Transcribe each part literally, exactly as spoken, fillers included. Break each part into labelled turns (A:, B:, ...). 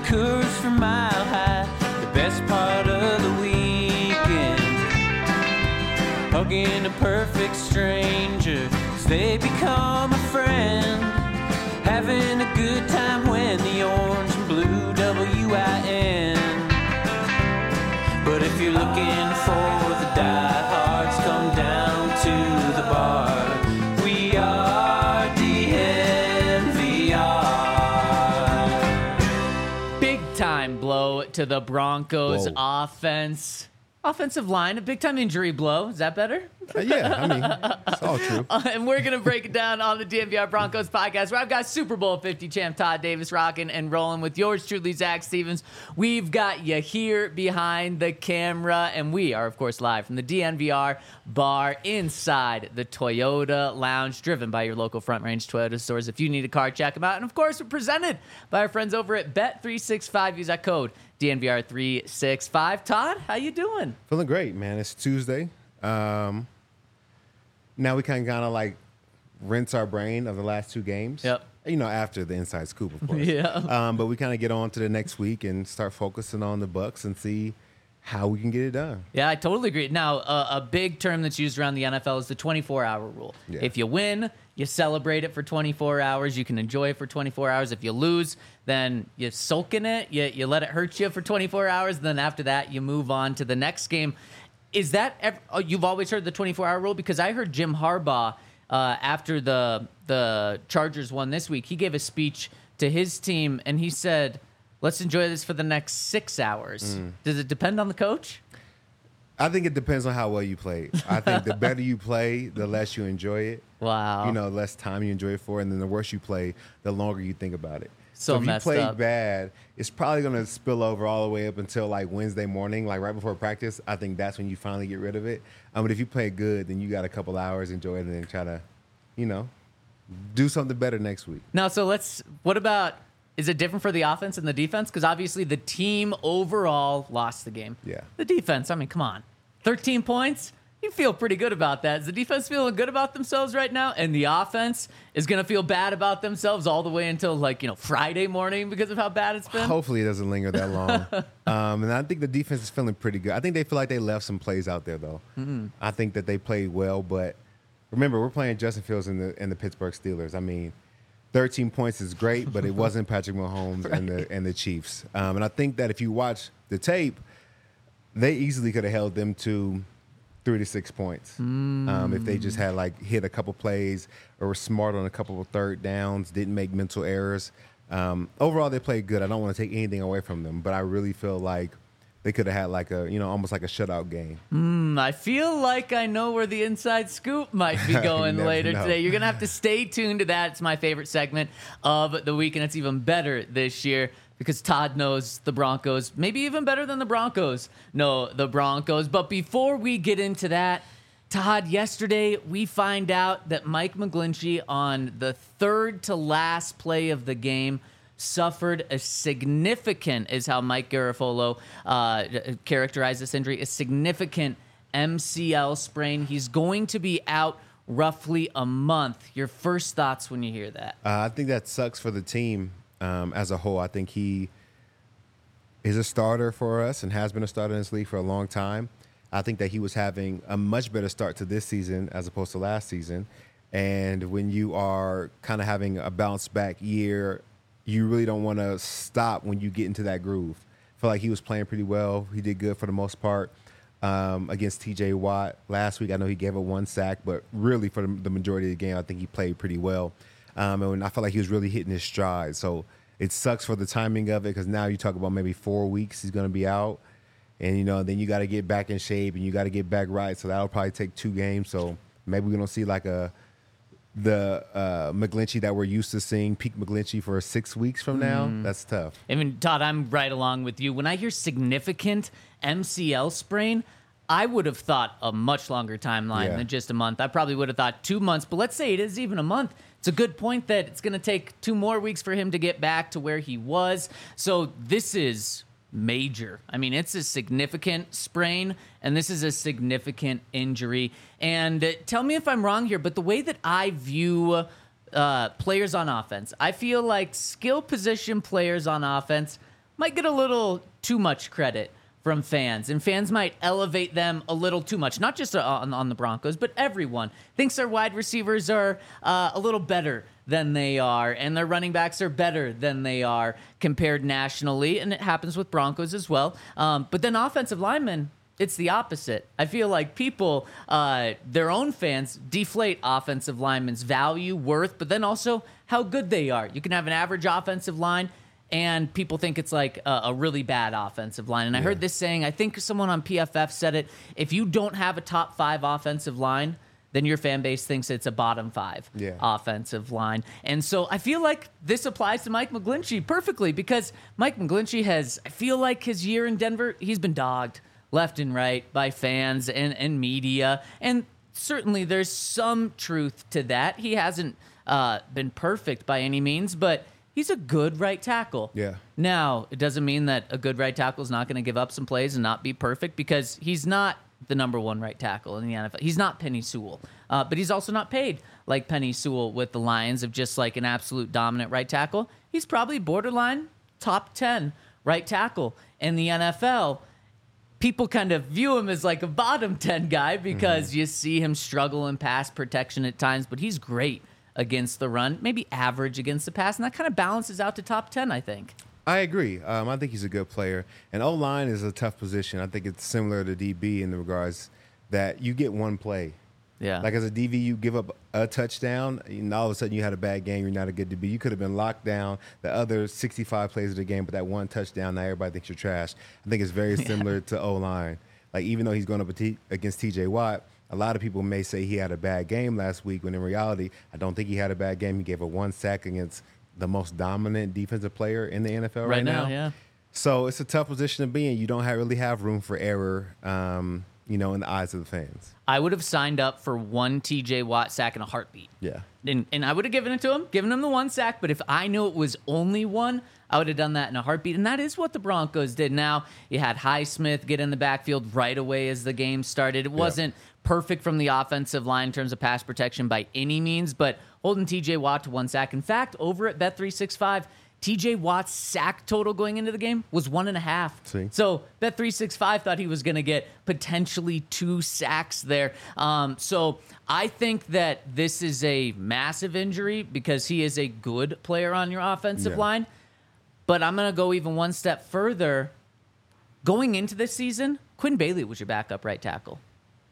A: Coors from Mile High, the best part of the weekend. Hugging a perfect stranger as they become a friend. Having a good time when the orange and blue W I N. But if you're looking for the diehards, come down to the bar. We are D N V R.
B: Big time blow to the Broncos
C: Whoa.
B: offense. Offensive line, a big time injury blow. Is that better?
C: Uh, yeah, I mean, it's all true.
B: Uh, and we're going to break it down on the D N V R Broncos podcast, where I've got Super Bowl fifty champ Todd Davis rocking and rolling with yours truly, Zach Stevens. We've got you here behind the camera, and we are, of course, live from the D N V R bar inside the Toyota Lounge, driven by your local Front Range Toyota stores. If you need a car, check them out. And, of course, we're presented by our friends over at Bet three sixty-five. Use that code D N V R three sixty-five. Todd, how you doing?
C: Feeling great, man. It's Tuesday. Um, now we kind of kind of like rinse our brain of the last two games.
B: Yep.
C: You know, after the inside scoop, of course.
B: Yeah.
C: Um, but we kind of get on to the next week and start focusing on the Bucs and see how we can get it done.
B: Yeah, I totally agree. Now, uh, a big term that's used around the N F L is the twenty-four hour rule.
C: Yeah.
B: If you win, you celebrate it for twenty-four hours. You can enjoy it for twenty-four hours. If you lose, then you soak in it. You, you let it hurt you for twenty-four hours. Then after that, you move on to the next game. Is that ev- oh, you've always heard the twenty-four hour rule? Because I heard Jim Harbaugh uh, after the the Chargers won this week. He gave a speech to his team, and he said, let's enjoy this for the next six hours.
C: Mm.
B: Does it depend on the coach?
C: I think it depends on how well you play. I think the better you play, the less you enjoy it.
B: Wow.
C: You know, the less time you enjoy it for, and then the worse you play, the longer you think about it.
B: So
C: if you
B: messed
C: play
B: up.
C: bad, it's probably going to spill over all the way up until like Wednesday morning, like right before practice. I think that's when you finally get rid of it. Um, but if you play good, then you got a couple hours, enjoy it, and then try to, you know, do something better next week.
B: Now, so let's, what about, is it different for the offense and the defense? Because obviously the team overall lost the game.
C: Yeah.
B: The defense, I mean, come on. thirteen points? You feel pretty good about that. Is the defense feeling good about themselves right now? And the offense is going to feel bad about themselves all the way until, like, you know, Friday morning because of how bad it's been?
C: Hopefully it doesn't linger that long. um, and I think the defense is feeling pretty good. I think they feel like they left some plays out there, though. Mm-hmm. I think that they played well, but remember, we're playing Justin Fields and the, and the Pittsburgh Steelers. I mean, thirteen points is great, but it wasn't Patrick Mahomes right. and the and the Chiefs. Um, and I think that if you watch the tape, they easily could have held them to three to six points mm. um, if they just had like hit a couple plays or were smart on a couple of third downs, didn't make mental errors. Um, overall, they played good. I don't want to take anything away from them, but I really feel like they could have had like a, you know, almost like a shutout game.
B: Mm, I feel like I know where the inside scoop might be going later
C: know.
B: today. You're going to have to stay tuned to that. It's my favorite segment of the week, and it's even better this year because Todd knows the Broncos, maybe even better than the Broncos know the Broncos. But before we get into that, Todd, yesterday we find out that Mike McGlinchey on the third to last play of the game suffered a significant, is how Mike Garafolo uh, characterized this injury, a significant M C L sprain. He's going to be out roughly a month. Your first thoughts when you hear that?
C: Uh, I think that sucks for the team um, as a whole. I think he is a starter for us and has been a starter in this league for a long time. I think that he was having a much better start to this season as opposed to last season. And when you are kind of having a bounce back year, you really don't want to stop when you get into that groove. I feel like he was playing pretty well. He did good for the most part um, against T J Watt last week. I know he gave up one sack, but really for the, the majority of the game, I think he played pretty well. Um, and I felt like he was really hitting his stride. So it sucks for the timing of it because now you talk about maybe four weeks he's going to be out. And, you know, then you got to get back in shape and you got to get back right. So that'll probably take two games. So maybe we're going to see like a the uh, McGlinchey that we're used to seeing, peak McGlinchey for six weeks from now. Mm. That's tough.
B: I mean, Todd, I'm right along with you. When I hear significant M C L sprain, I would have thought a much longer timeline
C: yeah.
B: than just a month. I probably would have thought two months, but let's say it is even a month. It's a good point that it's going to take two more weeks for him to get back to where he was. So this is major. I mean, it's a significant sprain, and this is a significant injury. And uh, tell me if I'm wrong here, but the way that I view uh, players on offense, I feel like skill position players on offense might get a little too much credit from fans, and fans might elevate them a little too much. Not just on, on the Broncos, but everyone thinks their wide receivers are uh, a little better than they are, and their running backs are better than they are compared nationally, and it happens with Broncos as well. Um, but then offensive linemen, it's the opposite. I feel like people, uh, their own fans, deflate offensive linemen's value, worth, but then also how good they are. You can have an average offensive line, and people think it's like a, a really bad offensive line. And I
C: Yeah.
B: heard this saying, I think someone on P F F said it, if you don't have a top five offensive line, then your fan base thinks it's a bottom five
C: Yeah.
B: offensive line. And so I feel like this applies to Mike McGlinchey perfectly, because Mike McGlinchey has, I feel like his year in Denver, he's been dogged left and right by fans and, and media. And certainly there's some truth to that. He hasn't uh, been perfect by any means, but he's a good right tackle.
C: Yeah.
B: Now, it doesn't mean that a good right tackle is not going to give up some plays and not be perfect, because he's not the number one right tackle in the N F L. He's not Penny Sewell, uh, but he's also not paid like Penny Sewell with the Lions of just like an absolute dominant right tackle. He's probably borderline top ten right tackle in the N F L. People kind of view him as like a bottom ten guy because mm-hmm. you see him struggle in pass protection at times, but he's great against the run, maybe average against the pass, and that kind of balances out to top ten, I think.
C: I agree. Um, I think he's a good player. And O-line is a tough position. I think it's similar to D B in the regards that you get one play.
B: Yeah.
C: Like as a D B, you give up a touchdown, and all of a sudden you had a bad game. You're not a good D B. You could have been locked down the other sixty-five plays of the game, but that one touchdown, now everybody thinks you're trash. I think it's very similar yeah. to O-line. Like even though he's going up against T J Watt, a lot of people may say he had a bad game last week, when in reality, I don't think he had a bad game. He gave a one sack against the most dominant defensive player in the N F L right,
B: right now,
C: now.
B: Yeah.
C: So it's a tough position to be in. You don't have, really have room for error, um, you know, in the eyes of the fans.
B: I would have signed up for one T J Watt sack in a heartbeat.
C: Yeah.
B: And, and I would have given it to him, given him the one sack. But if I knew it was only one, I would have done that in a heartbeat. And that is what the Broncos did. Now, you had Highsmith get in the backfield right away as the game started. It wasn't yeah. perfect from the offensive line in terms of pass protection by any means, but holding T J Watt to one sack. In fact, over at Bet three sixty-five, T J Watt's sack total going into the game was one and a half.
C: See?
B: So Bet three sixty-five thought he was going to get potentially two sacks there. Um, so I think that this is a massive injury because he is a good player on your offensive
C: Yeah.
B: line. But I'm going to go even one step further. Going into this season, Quinn Bailey was your backup right tackle.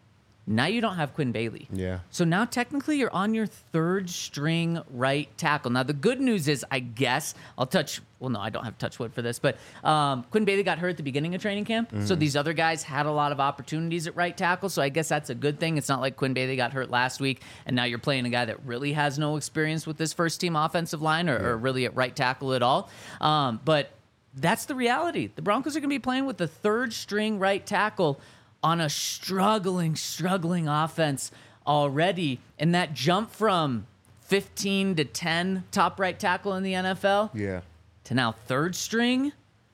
B: Now you don't have Quinn Bailey.
C: Yeah.
B: So now technically you're on your third string right tackle. Now the good news is, I guess, I'll touch, well, no, I don't have to touch wood for this, but um, Quinn Bailey got hurt at the beginning of training camp. Mm-hmm. So these other guys had a lot of opportunities at right tackle. So I guess that's a good thing. It's not like Quinn Bailey got hurt last week and now you're playing a guy that really has no experience with this first team offensive line or,
C: yeah.
B: or really at right tackle at all. Um, but that's the reality. The Broncos are going to be playing with the third string right tackle on a struggling, struggling offense already. And that jump from fifteen to ten top right tackle in the N F L
C: Yeah.
B: to now third string,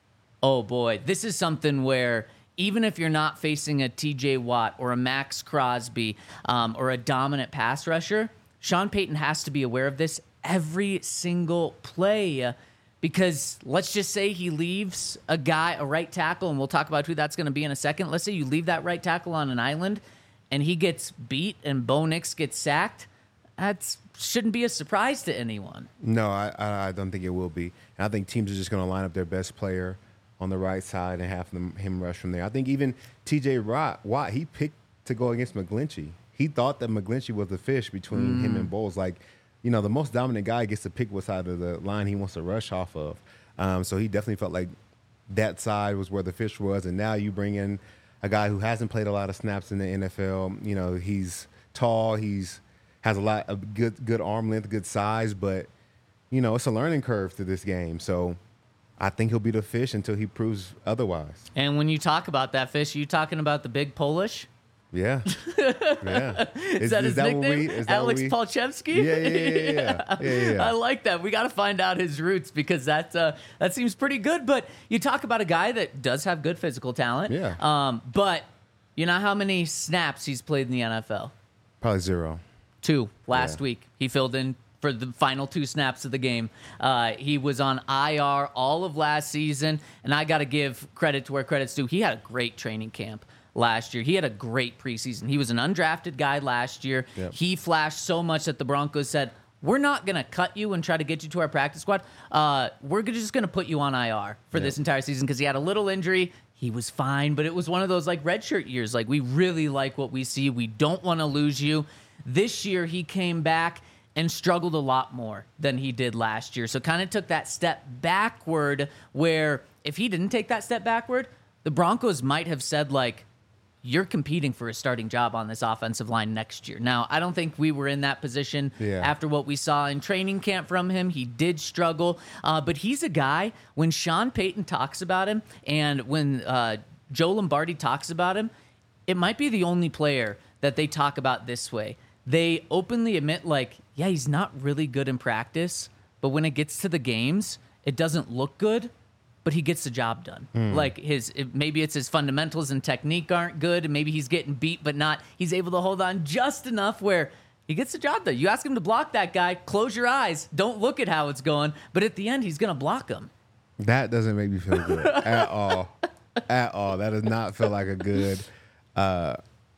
B: oh boy, this is something where even if you're not facing a T J Watt or a Max Crosby um, or a dominant pass rusher, Sean Payton has to be aware of this every single play. Because let's just say he leaves a guy, a right tackle, and we'll talk about who that's going to be in a second. Let's say you leave that right tackle on an island and he gets beat and Bo Nix gets sacked. That shouldn't be a surprise to anyone.
C: No, I, I don't think it will be. And I think teams are just going to line up their best player on the right side and have them, him rush from there. I think even T J Watt, he picked to go against McGlinchey. He thought that McGlinchey was the fish between mm. him and Bowles. Like, you know, the most dominant guy gets to pick what side of the line he wants to rush off of. Um, so he definitely felt like that side was where the fish was. And now you bring in a guy who hasn't played a lot of snaps in the N F L. You know, he's tall. He's has a lot of good good arm length, good size. But, you know, it's a learning curve to this game. So I think he'll be the fish until he proves otherwise.
B: And when you talk about that fish, are you talking about the big Polish?
C: Yeah. Yeah.
B: Is,
C: is
B: that his
C: is that
B: nickname?
C: We, is that
B: Alex
C: we,
B: Palchevsky?
C: Yeah, yeah, yeah, yeah. yeah, yeah.
B: I like that. We got to find out his roots because that uh, that seems pretty good. But you talk about a guy that does have good physical talent.
C: Yeah.
B: Um, but you know how many snaps he's played in the N F L?
C: Probably zero.
B: Two last
C: Yeah.
B: week. He filled in for the final two snaps of the game. Uh, he was on I R all of last season, and I got to give credit to where credit's due. He had a great training camp last year. He had a great preseason. He was an undrafted guy last year.
C: Yep.
B: He flashed so much that the Broncos said, we're not going to cut you and try to get you to our practice squad. Uh, we're just going to put you on I R for
C: Yep.
B: this entire season because he had a little injury. He was fine, but it was one of those like redshirt years. Like, we really like what we see. We don't want to lose you. This year, he came back and struggled a lot more than he did last year. So kind of took that step backward where if he didn't take that step backward, the Broncos might have said, like, you're competing for a starting job on this offensive line next year. Now, I don't think we were in that position
C: Yeah.
B: after what we saw in training camp from him. He did struggle, uh, but he's a guy, when Sean Payton talks about him and when uh, Joe Lombardi talks about him, it might be the only player that they talk about this way. They openly admit, like, yeah, he's not really good in practice, but when it gets to the games, it doesn't look good, but he gets the job done. Like, his it, maybe it's his fundamentals and technique aren't good, and maybe he's getting beat, but not. He's able to hold on just enough where he gets the job done. You ask him to block that guy, close your eyes, don't look at how it's going, but at the end, he's going to block him.
C: That doesn't make me feel good at all. At all. That does not feel like a good, uh,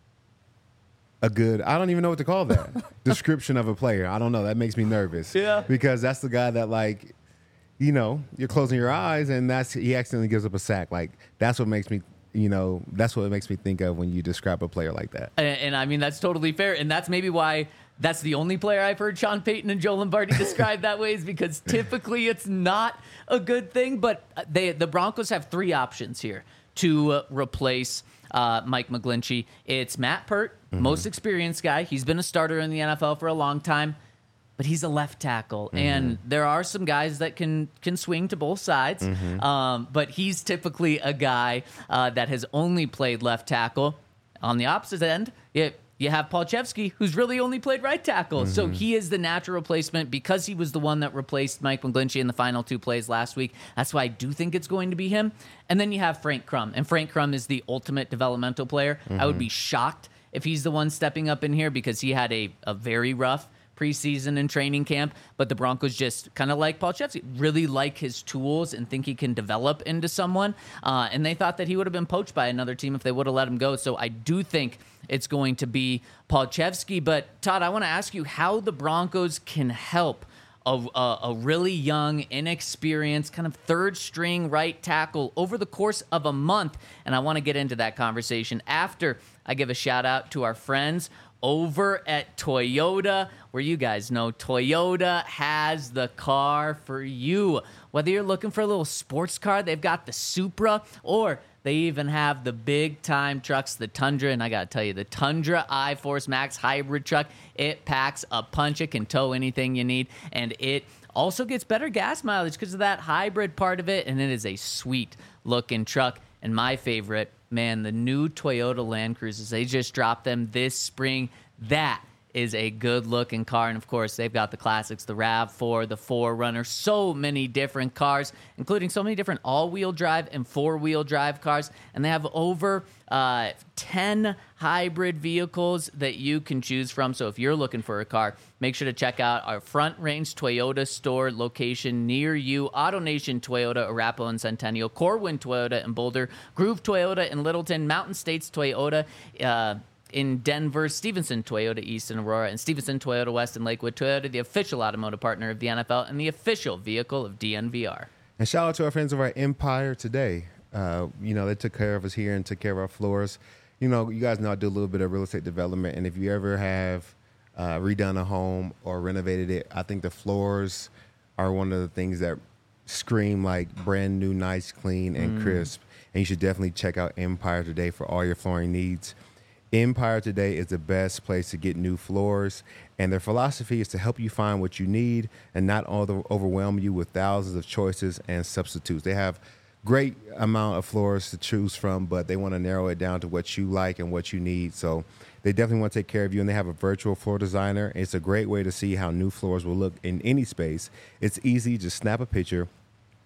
C: a good, I don't even know what to call that, description of a player. I don't know. That makes me nervous.
B: Yeah.
C: Because that's the guy that, like, you know, you're closing your eyes and that's he accidentally gives up a sack. Like, that's what makes me, you know, that's what it makes me think of when you describe a player like that.
B: And, and I mean, that's totally fair. And that's maybe why that's the only player I've heard Sean Payton and Joe Lombardi describe that way, is because typically it's not a good thing. But they, the Broncos have three options here to uh, replace uh, Mike McGlinchey. It's Matt Pert, mm-hmm. most experienced guy. He's been a starter in the N F L for a long time. But he's a left tackle, mm-hmm. and there are some guys that can can swing to both sides. Mm-hmm. Um, but he's typically a guy uh, that has only played left tackle. On the opposite end, you, you have Paul Chevsky, who's really only played right tackle. Mm-hmm. So he is the natural replacement because he was the one that replaced Mike McGlinchey in the final two plays last week. That's why I do think it's going to be him. And then you have Frank Crum, and Frank Crum is the ultimate developmental player. Mm-hmm. I would be shocked if he's the one stepping up in here because he had a, a very rough preseason and training camp, but the Broncos just kind of like Paul Chevsky, really like his tools and think he can develop into someone. Uh, and they thought that he would have been poached by another team if they would have let him go. So I do think it's going to be Paul Chevsky. But Todd, I want to ask you how the Broncos can help a, a, a really young, inexperienced, kind of third string right tackle over the course of a month. And I want to get into that conversation after I give a shout out to our friends over at Toyota, where you guys know Toyota has the car for you. Whether you're looking for a little sports car, they've got the Supra, or they even have the big-time trucks, the Tundra. And I got to tell you, the Tundra iForce Max hybrid truck, it packs a punch. It can tow anything you need, and it also gets better gas mileage because of that hybrid part of it, and it is a sweet-looking truck. And my favorite, man, the new Toyota Land Cruisers, they just dropped them this spring. That is a good-looking car. And, of course, they've got the classics, the RAV four, the four runner, so many different cars, including so many different all-wheel drive and four-wheel drive cars. And they have over uh, ten hybrid vehicles that you can choose from. So if you're looking for a car, make sure to check out our Front Range Toyota store location near you. AutoNation Toyota, Arapahoe and Centennial, Corwin Toyota in Boulder, Groove Toyota in Littleton, Mountain States Toyota uh, in Denver, Stevenson Toyota East in Aurora, and Stevenson Toyota West in Lakewood. Toyota, the official automotive partner of the N F L and the official vehicle of D N V R.
C: And shout out to our friends over at Empire Today. Uh, you know, they took care of us here and took care of our floors. You know, you guys know I do a little bit of real estate development, and if you ever have uh, redone a home or renovated it, I think the floors are one of the things that scream like brand new, nice, clean, and mm. crisp. And you should definitely check out Empire Today for all your flooring needs. Empire Today is the best place to get new floors, and their philosophy is to help you find what you need and not over- overwhelm you with thousands of choices and substitutes. They have great amount of floors to choose from, but they want to narrow it down to what you like and what you need. So they definitely want to take care of you, and they have a virtual floor designer. It's a great way to see how new floors will look in any space. It's easy. Just snap a picture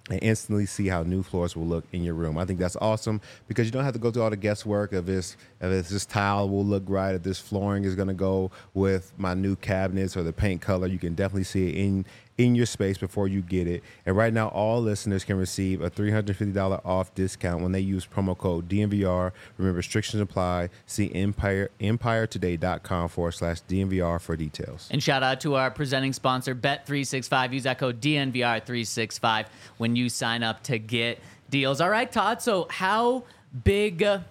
C: and instantly see how new floors will look in your room. I think that's awesome because you don't have to go through all the guesswork of this, if it's this tile will look right, if this flooring is going to go with my new cabinets or the paint color. You can definitely see it in in your space before you get it. And right now, all listeners can receive a three hundred fifty dollars off discount when they use promo code D N V R. Remember, restrictions apply. See empire empiretoday.com forward slash DNVR for details.
B: And shout out to our presenting sponsor, Bet three sixty-five. Use that code D N V R three sixty-five when you sign up to get deals. All right, Todd. So how big, uh,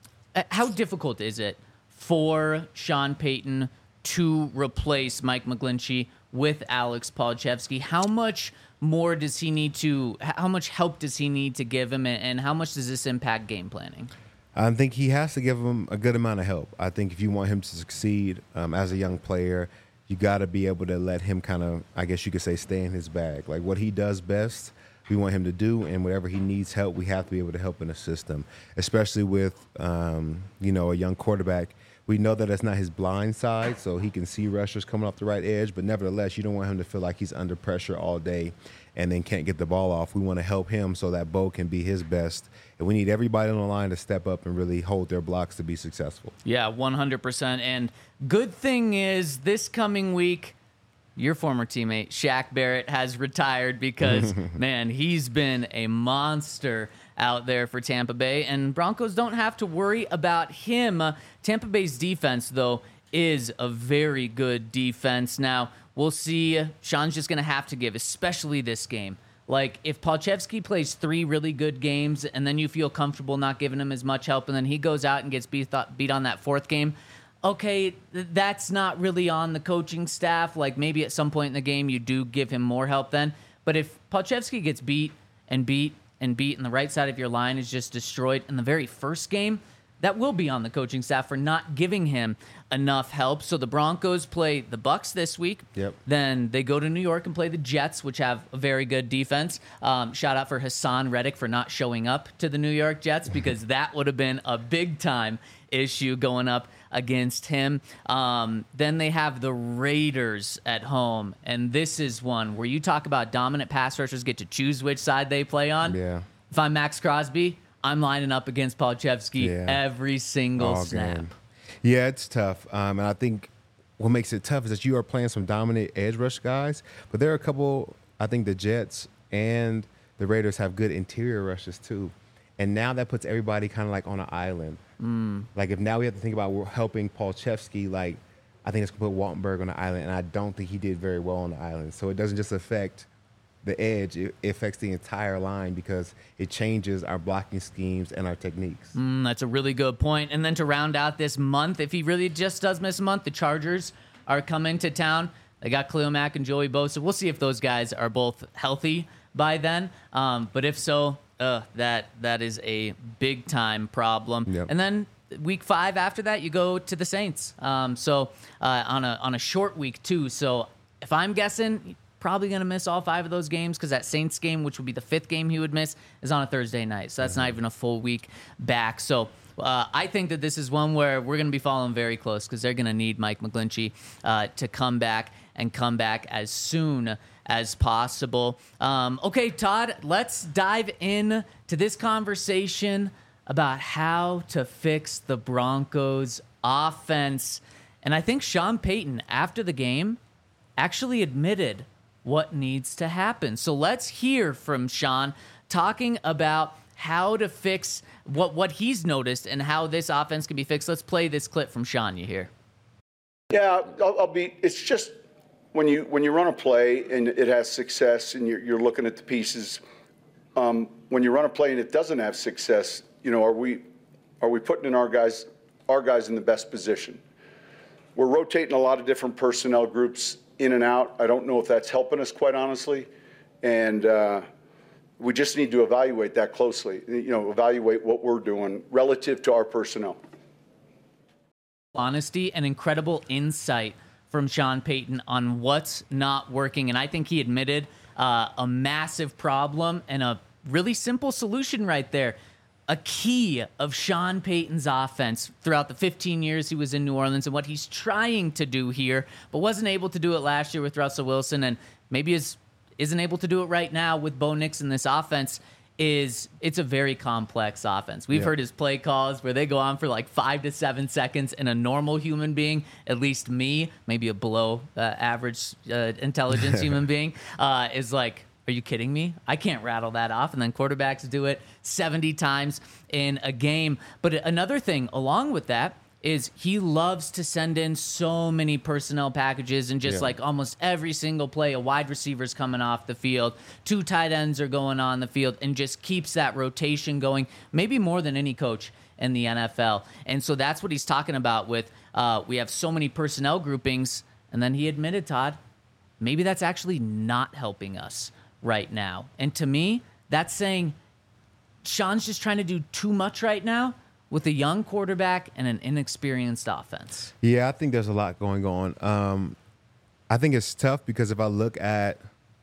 B: how difficult is it for Sean Payton to replace Mike McGlinchey with Alex Palczewski? How much more does he need to, how much help does he need to give him, and how much does this impact game planning?
C: I think he has to give him a good amount of help. I think if you want him to succeed um, as a young player, you got to be able to let him kind of, I guess you could say, stay in his bag. Like what he does best, we want him to do, and whatever he needs help, we have to be able to help and assist him, especially with, um, you know, a young quarterback. We know that that's not his blind side, so he can see rushers coming off the right edge, but nevertheless, you don't want him to feel like he's under pressure all day and then can't get the ball off. We want to help him so that Bo can be his best, and we need everybody on the line to step up and really hold their blocks to be successful.
B: Yeah, one hundred percent. And good thing is this coming week, your former teammate, Shaq Barrett, has retired because, man, he's been a monster out there for Tampa Bay, and Broncos don't have to worry about him. Uh, Tampa Bay's defense, though, is a very good defense. Now, we'll see. Sean's just going to have to give, especially this game. Like, if Palczewski plays three really good games and then you feel comfortable not giving him as much help, and then he goes out and gets beat, beat on that fourth game, okay, that's not really on the coaching staff. Like, maybe at some point in the game you do give him more help then. But if Palczewski gets beat and beat and beat and the right side of your line is just destroyed in the very first game, that will be on the coaching staff for not giving him enough help. So the Broncos play the Bucs this week.
C: Yep.
B: Then they go to New York and play the Jets, which have a very good defense. Um, shout out for Hassan Reddick for not showing up to the New York Jets, because that would have been a big-time issue going up against him. Um, then they have the Raiders at home, and this is one where you talk about dominant pass rushers get to choose which side they play on.
C: Yeah.
B: If I'm Max Crosby, I'm lining up against Palczewski
C: Yeah.
B: every single
C: All
B: snap.
C: game. Yeah, it's tough. Um, and I think what makes it tough is that you are playing some dominant edge rush guys, but there are a couple, I think the Jets and the Raiders have good interior rushes too. And now that puts everybody kind of like on an island. Mm. Like if now we have to think about helping Palczewski, like I think it's going to put Waltenberg on the island, and I don't think he did very well on the island. So it doesn't just affect the edge, it affects the entire line because it changes our blocking schemes and our techniques.
B: Mm, that's a really good point. And then to round out this month, if he really just does miss a month, the Chargers are coming to town. They got Khalil Mack and Joey Bosa. We'll see if those guys are both healthy by then. Um, but if so, uh, that that is a big-time problem.
C: Yep.
B: And then week five after that, you go to the Saints. Um, so uh, on a on a short week, too. So if I'm guessing, probably going to miss all five of those games because that Saints game, which would be the fifth game he would miss, is on a Thursday night. So that's mm-hmm. not even a full week back. So uh, I think that this is one where we're going to be following very close because they're going to need Mike McGlinchey uh, to come back and come back as soon as possible. Um, okay, Todd, let's dive in to this conversation about how to fix the Broncos offense. And I think Sean Payton, after the game, actually admitted what needs to happen. So let's hear from Sean talking about how to fix what, what he's noticed and how this offense can be fixed. Let's play this clip from Sean. You hear?
D: Yeah, I'll, I'll be. It's just when you when you run a play and it has success and you're, you're looking at the pieces. Um, when you run a play and it doesn't have success, you know, are we are we putting in our guys our guys in the best position? We're rotating a lot of different personnel groups in and out. I don't know if that's helping us, quite honestly, and uh, we just need to evaluate that closely. You know, evaluate what we're doing relative to our personnel.
B: Honesty and incredible insight from Sean Payton on what's not working, and I think he admitted uh, a massive problem and a really simple solution right there. A key of Sean Payton's offense throughout the fifteen years he was in New Orleans and what he's trying to do here, but wasn't able to do it last year with Russell Wilson, and maybe is isn't able to do it right now with Bo Nix in this offense is it's a very complex offense. We've
C: Yeah.
B: heard his play calls where they go on for like five to seven seconds, and a normal human being, at least me, maybe a below uh, average uh, intelligence human being, uh, is like, are you kidding me? I can't rattle that off. And then quarterbacks do it seventy times in a game. But another thing along with that is he loves to send in so many personnel packages, and just
C: Yeah.
B: like almost every single play, a wide receiver's coming off the field, two tight ends are going on the field, and just keeps that rotation going, maybe more than any coach in the N F L. And so that's what he's talking about with uh, we have so many personnel groupings. And then he admitted, Todd, maybe that's actually not helping us right now. And to me, that's saying Sean's just trying to do too much right now with a young quarterback and an inexperienced offense.
C: Yeah, I think there's a lot going on. Um, I think it's tough because if I look at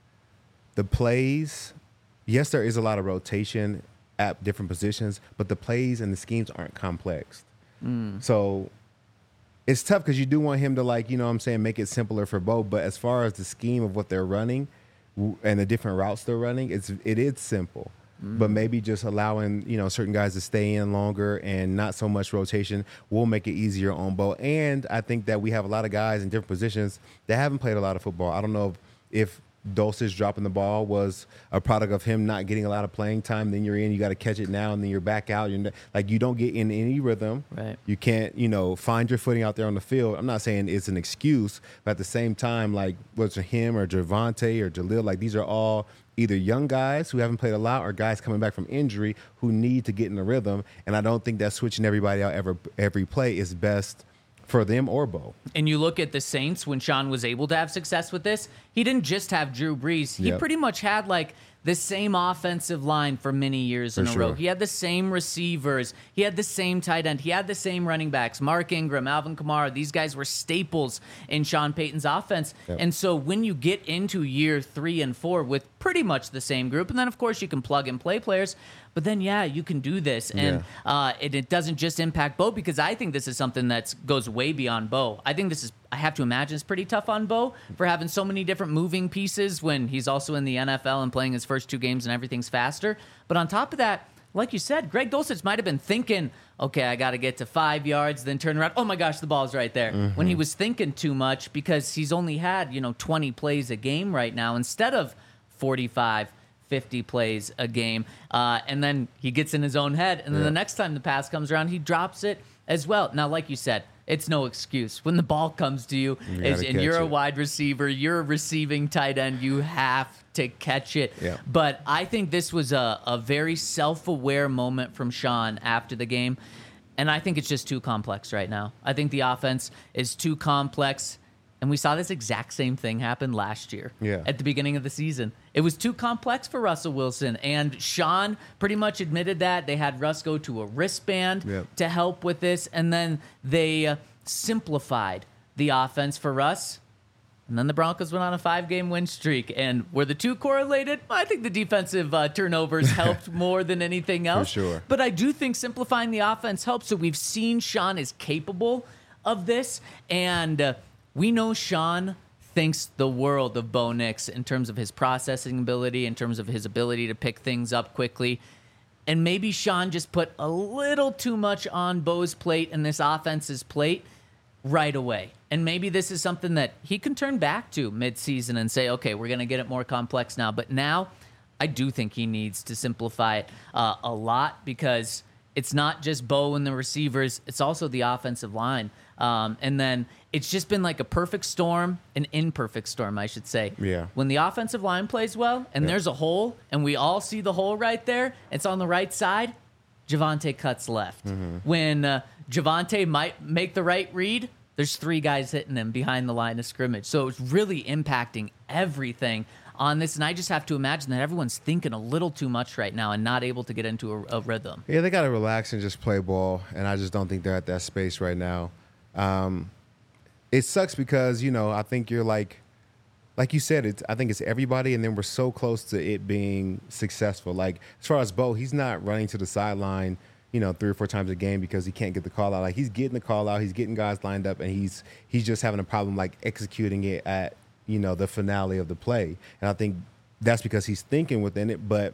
C: the plays, yes, there is a lot of rotation at different positions, but the plays and the schemes aren't complex. Mm. So it's tough because you do want him to, like, you know what I'm saying, make it simpler for both. But as far as the scheme of what they're running and the different routes they're running, it's it is simple. Mm. But maybe just allowing, you know, certain guys to stay in longer and not so much rotation will make it easier on Bo. And I think that we have a lot of guys in different positions that haven't played a lot of football. I don't know if, if Dulcich dropping the ball was a product of him not getting a lot of playing time. Then you're in, you got to catch it now, and then you're back out. You're not, like, you don't get in any rhythm.
B: Right.
C: You can't, you know, find your footing out there on the field. I'm not saying it's an excuse, but at the same time, like, whether it's him or Javonte or Jalil, like, these are all either young guys who haven't played a lot or guys coming back from injury who need to get in the rhythm. And I don't think that switching everybody out every, every play is best for them or Bo.
B: And you look at the Saints when Sean was able to have success with this, he didn't just have Drew Brees. He
C: Yep.
B: pretty much had like the same offensive line for many years in
C: For
B: a row.
C: sure.
B: He had the same receivers. He had the same tight end. He had the same running backs. Mark Ingram, Alvin Kamara, these guys were staples in Sean Payton's offense.
C: Yep.
B: And so when you get into year three and four with pretty much the same group, and then of course you can plug and play players, but then, yeah, you can do this. And
C: Yeah.
B: uh, it, it doesn't just impact Bo, because I think this is something that goes way beyond Bo. I think this is, I have to imagine, it's pretty tough on Bo for having so many different moving pieces when he's also in the N F L and playing his first two games and everything's faster. But on top of that, like you said, Greg Dulcich might have been thinking, okay, I got to get to five yards, then turn around. Oh, my gosh, the ball's right there.
C: Mm-hmm.
B: When he was thinking too much, because he's only had, you know, twenty plays a game right now instead of forty-five, fifty plays a game. Uh, and then he gets in his own head. And then
C: Yeah.
B: the next time the pass comes around, he drops it as well. Now, like you said, it's no excuse. When the ball comes to you,
C: You
B: is,
C: gotta
B: and you're
C: catch
B: a
C: it.
B: wide receiver, you're a receiving tight end, you have to catch it.
C: Yeah.
B: But I think this was a, a very self-aware moment from Sean after the game. And I think it's just too complex right now. I think the offense is too complex. And we saw this exact same thing happen last year
C: Yeah.
B: at the beginning of the season. It was too complex for Russell Wilson. And Sean pretty much admitted that. They had Russ go to a wristband
C: Yep.
B: to help with this. And then they uh, simplified the offense for Russ. And then the Broncos went on a five-game win streak. And were the two correlated? I think the defensive uh, turnovers helped more than anything else.
C: sure.
B: But I do think simplifying the offense helps. So we've seen Sean is capable of this. And uh, we know Sean thinks the world of Bo Nix in terms of his processing ability, in terms of his ability to pick things up quickly. And maybe Sean just put a little too much on Bo's plate and this offense's plate right away. And maybe this is something that he can turn back to midseason and say, okay, we're going to get it more complex now. But now I do think he needs to simplify it uh, a lot, because it's not just Bo and the receivers, it's also the offensive line. Um, and then it's just been like a perfect storm, an imperfect storm, I should say.
C: Yeah.
B: When the offensive line plays well and
C: Yeah.
B: there's a hole and we all see the hole right there, it's on the right side, Javonte cuts left.
C: Mm-hmm.
B: When uh, Javonte might make the right read, there's three guys hitting him behind the line of scrimmage. So it's really impacting everything on this. And I just have to imagine that everyone's thinking a little too much right now and not able to get into a, a rhythm.
C: Yeah, they got to relax and just play ball, and I just don't think they're at that space right now. Um, it sucks because, you know, I think you're like, like you said, it's, I think it's everybody, and then we're so close to it being successful. Like, as far as Bo, he's not running to the sideline, you know, three or four times a game because he can't get the call out. Like, he's getting the call out, he's getting guys lined up, and he's he's just having a problem, like, executing it at, you know, the finale of the play. And I think that's because he's thinking within it. But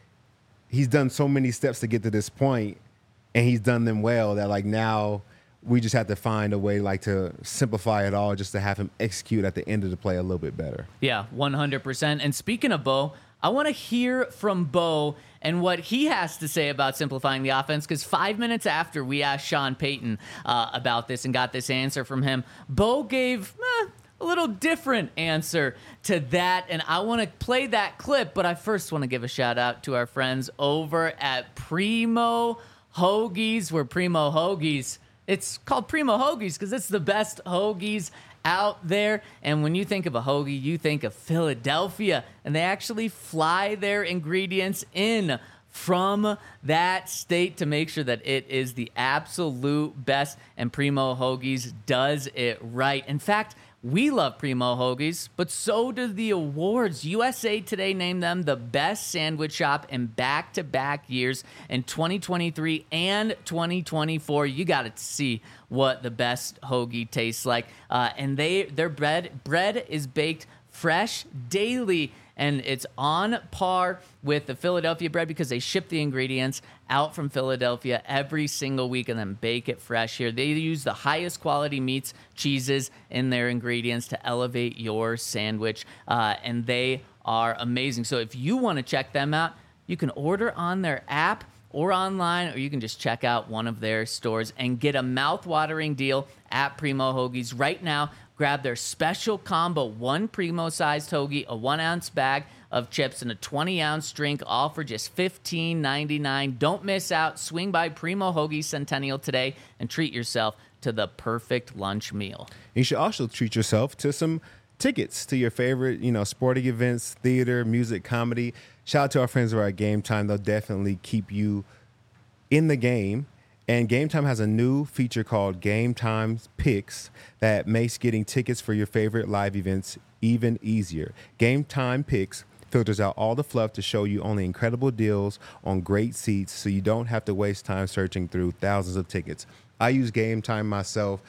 C: he's done so many steps to get to this point, and he's done them well that like now we just have to find a way like to simplify it all just to have him execute at the end of the play a little bit better.
B: Yeah, one hundred percent. And speaking of Bo, I want to hear from Bo and what he has to say about simplifying the offense, because five minutes after we asked Sean Payton uh, about this and got this answer from him, Bo gave eh, a little different answer to that, and I want to play that clip, but I first want to give a shout out to our friends over at Primo Hoagies. We're Primo Hoagies. It's called Primo Hoagies because it's the best hoagies out there. And when you think of a hoagie, you think of Philadelphia. And they actually fly their ingredients in from that state to make sure that it is the absolute best. And Primo Hoagies does it right. In fact, we love Primo Hoagies, but so do the awards. U S A Today named them the best sandwich shop in back-to-back years in twenty twenty-three and twenty twenty-four. You got to see what the best hoagie tastes like. Uh, and they their bread bread is baked fresh daily, and it's on par with the Philadelphia bread because they ship the ingredients out from Philadelphia every single week and then bake it fresh here. They use the highest quality meats, cheeses in their ingredients to elevate your sandwich, uh, and they are amazing. So if you want to check them out, you can order on their app or online, or you can just check out one of their stores and get a mouth-watering deal at Primo Hoagies right now. Grab their special combo, one Primo-sized hoagie, a one-ounce bag of chips, and a twenty-ounce drink, all for just fifteen ninety-nine. Don't miss out. Swing by Primo Hoagie Centennial today and treat yourself to the perfect lunch meal.
C: You should also treat yourself to some tickets to your favorite, you know, sporting events, theater, music, comedy. Shout out to our friends who are at Game Time. They'll definitely keep you in the game. And Game Time has a new feature called Game Time Picks that makes getting tickets for your favorite live events even easier. Game Time Picks filters out all the fluff to show you only incredible deals on great seats so you don't have to waste time searching through thousands of tickets. I use Game Time myself.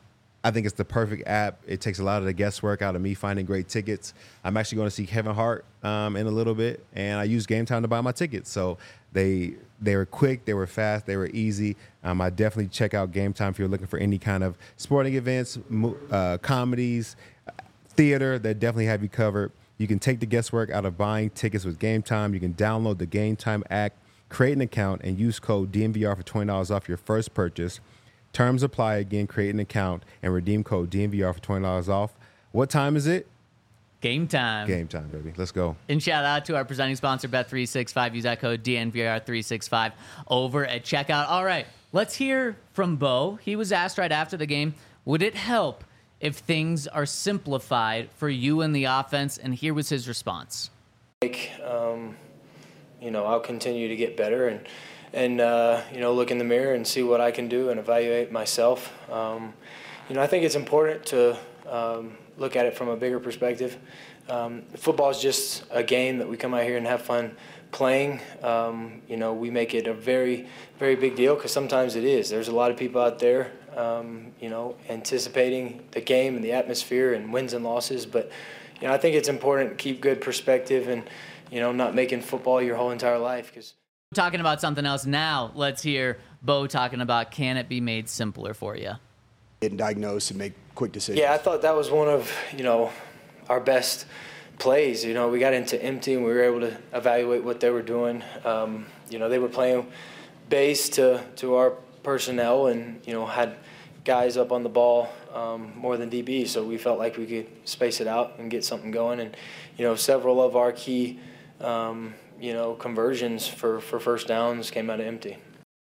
C: I think it's the perfect app. It takes a lot of the guesswork out of me finding great tickets. I'm actually going to see Kevin Hart um, in a little bit, and I use Game Time to buy my tickets. So they they were quick, they were fast, they were easy. Um, I definitely check out Game Time if you're looking for any kind of sporting events, uh, comedies, theater. They definitely have you covered. You can take the guesswork out of buying tickets with Game Time. You can download the Game Time app, create an account, and use code D N V R for twenty dollars off your first purchase. Terms apply. Again, create an account and redeem code D N V R for twenty dollars off. What time is it?
B: Game time.
C: Game time, baby. Let's go.
B: And shout out to our presenting sponsor, Bet three sixty-five. Use that code D N V R three sixty-five over at checkout. All right, let's hear from Bo. He was asked right after the game, would it help if things are simplified for you in the offense? And here was his response.
E: Like, um, you know, I'll continue to get better and, and uh, you know, look in the mirror and see what I can do and evaluate myself. Um, you know, I think it's important to um, look at it from a bigger perspective. Um, football is just a game that we come out here and have fun playing. Um, you know, we make it a very, very big deal because sometimes it is. There's a lot of people out there, um, you know, anticipating the game and the atmosphere and wins and losses. But, you know, I think it's important to keep good perspective and, you know, not making football your whole entire life. Because
B: talking about something else now, let's hear Bo talking about, can it be made simpler for you?
F: And diagnose and make quick decisions.
E: Yeah, I thought that was one of, you know, our best plays. You know, we got into empty and we were able to evaluate what they were doing. Um, you know, they were playing base to, to our personnel and, you know, had guys up on the ball um, more than D B, so we felt like we could space it out and get something going. And, you know, several of our key, um, you know, conversions for, for first downs came out of empty.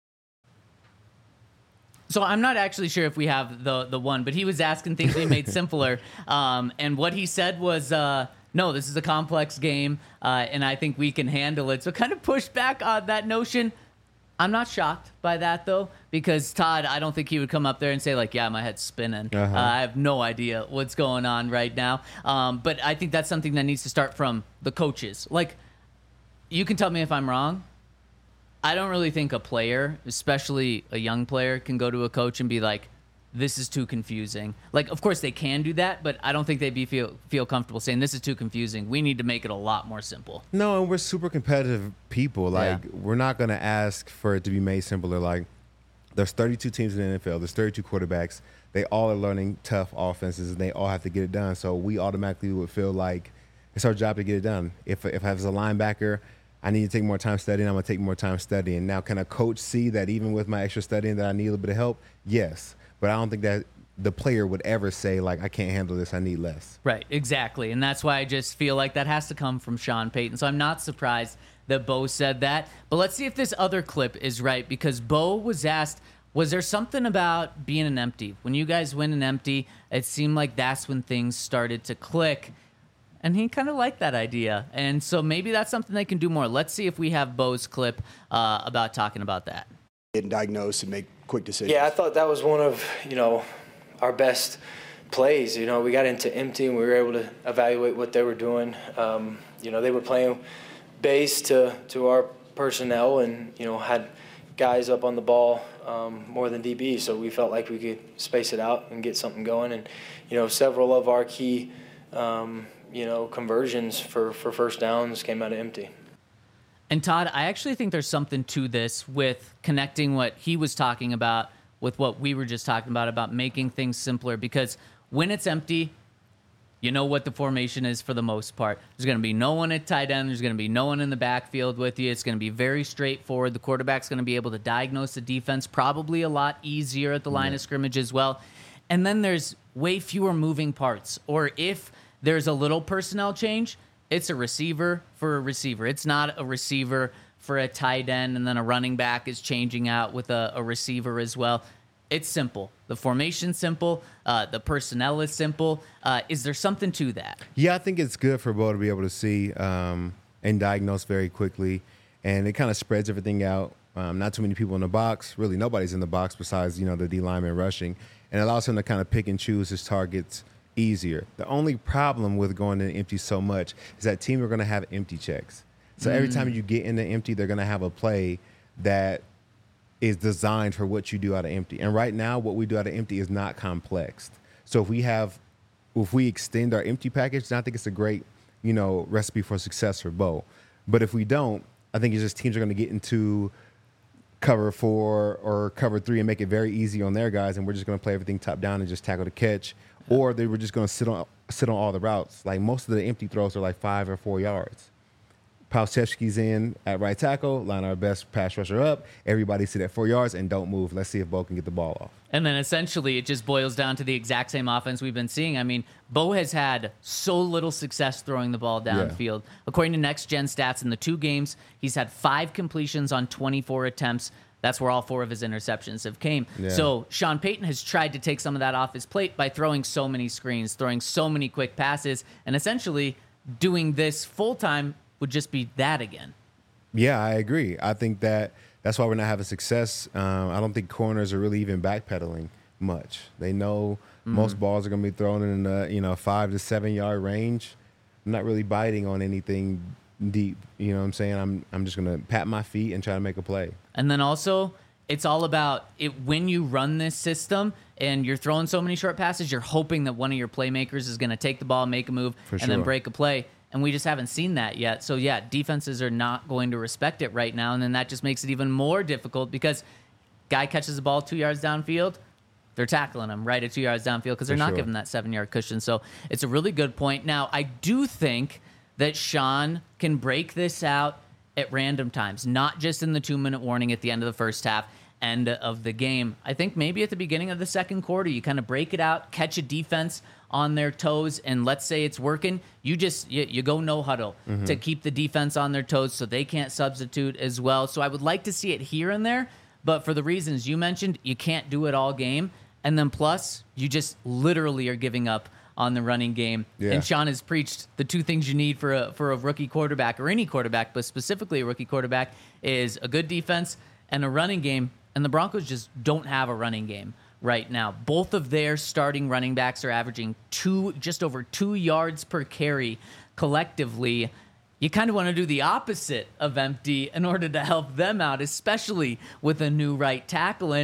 B: So I'm not actually sure if we have the the one, but he was asking things to be made simpler. Um, and what he said was, uh, no, this is a complex game, uh, and I think we can handle it. So kind of push back on that notion. I'm not shocked by that, though, because Todd, I don't think he would come up there and say, like, yeah, my head's spinning. Uh-huh. Uh, I have no idea what's going on right now. Um, but I think that's something that needs to start from the coaches. Like, you can tell me if I'm wrong. I don't really think a player, especially a young player, can go to a coach and be like, this is too confusing. Like, of course they can do that, but I don't think they'd be feel feel comfortable saying this is too confusing. We need to make it a lot more simple.
C: No, and we're super competitive people. Like,
B: Yeah.
C: we're not going to ask for it to be made simpler. Like, there's thirty-two teams in the N F L. There's thirty-two quarterbacks. They all are learning tough offenses, and they all have to get it done. So we automatically would feel like it's our job to get it done. If if I was a linebacker, I need to take more time studying. I'm going to take more time studying. Now, can a coach see that even with my extra studying that I need a little bit of help? Yes. But I don't think that the player would ever say, like, I can't handle this, I need less.
B: Right, exactly. And that's why I just feel like that has to come from Sean Payton. So I'm not surprised that Bo said that. But let's see if this other clip is right, because Bo was asked, was there something about being an empty? When you guys win an empty, it seemed like that's when things started to click. And he kind of liked that idea. And so maybe that's something they can do more. Let's see if we have Bo's clip uh, about talking about that.
F: Get diagnosed and make quick decisions.
E: Yeah, I thought that was one of, you know, our best plays. You know, we got into empty and we were able to evaluate what they were doing. Um, you know, they were playing base to, to our personnel and, you know, had guys up on the ball um, more than D B. So we felt like we could space it out and get something going. And, you know, several of our key, um, you know, conversions for, for first downs came out of empty.
B: And Todd, I actually think there's something to this with connecting what he was talking about with what we were just talking about, about making things simpler. Because when it's empty, you know what the formation is for the most part. There's going to be no one at tight end. There's going to be no one in the backfield with you. It's going to be very straightforward. The quarterback's going to be able to diagnose the defense probably a lot easier at the line yeah. of scrimmage as well. And then there's way fewer moving parts. Or if there's a little personnel change, it's a receiver for a receiver. It's not a receiver for a tight end, and then a running back is changing out with a, a receiver as well. It's simple. The formation's simple. Uh, the personnel is simple. Uh, is there something to that?
C: Yeah, I think it's good for Bo to be able to see um, and diagnose very quickly, and it kind of spreads everything out. Um, not too many people in the box. Really, nobody's in the box besides, you know, the D lineman rushing, and it allows him to kind of pick and choose his targets easier. The only problem with going in empty so much is that teams are going to have empty checks. So mm. every time you get into empty, they're going to have a play that is designed for what you do out of empty. And right now, what we do out of empty is not complex. So if we have, if we extend our empty package, then I think it's a great, you know, recipe for success for Bo. But if we don't, I think it's just teams are going to get into cover four or cover three and make it very easy on their guys, and we're just going to play everything top down and just tackle the catch. Or they were just going to sit on sit on all the routes. Like, most of the empty throws are like five or four yards. Palczewski's in at right tackle, line our best pass rusher up. Everybody sit at four yards and don't move. Let's see if Bo can get the ball off.
B: And then essentially it just boils down to the exact same offense we've been seeing. I mean, Bo has had so little success throwing the ball downfield. Yeah. According to Next Gen Stats, in the two games, he's had five completions on twenty-four attempts. That's where all four of his interceptions have came. Yeah. So Sean Payton has tried to take some of that off his plate by throwing so many screens, throwing so many quick passes, and essentially doing this full-time would just be that again.
C: Yeah, I agree. I think that that's why we're not having success. Um, I don't think corners are really even backpedaling much. They know mm-hmm. most balls are going to be thrown in the, you know, five to seven yard range. I'm not really biting on anything deep. You know what I'm saying? I'm I'm just going to pat my feet and try to make a play.
B: And then also, it's all about it when you run this system and you're throwing so many short passes, you're hoping that one of your playmakers is going to take the ball, make a move,
C: For
B: and
C: sure.
B: then break a play. And we just haven't seen that yet. So, yeah, defenses are not going to respect it right now. And then that just makes it even more difficult because guy catches the ball two yards downfield, they're tackling him right at two yards downfield because they're
C: For
B: not
C: sure.
B: giving that seven-yard cushion. So it's a really good point. Now, I do think that Sean can break this out at random times, not just in the two-minute warning at the end of the first half, end of the game. I think maybe at the beginning of the second quarter, you kind of break it out, catch a defense on their toes, and let's say it's working, you just you, you go no huddle mm-hmm. to keep the defense on their toes so they can't substitute as well. So I would like to see it here and there, but for the reasons you mentioned, you can't do it all game. And then plus, you just literally are giving up on the running game.
C: Yeah.
B: And Sean has preached the two things you need for a for a rookie quarterback, or any quarterback, but specifically a rookie quarterback, is a good defense and a running game. And the Broncos just don't have a running game right now. Both of their starting running backs are averaging two, just over two yards per carry collectively. You kind of want to do the opposite of empty in order to help them out, especially with a new right tackle. And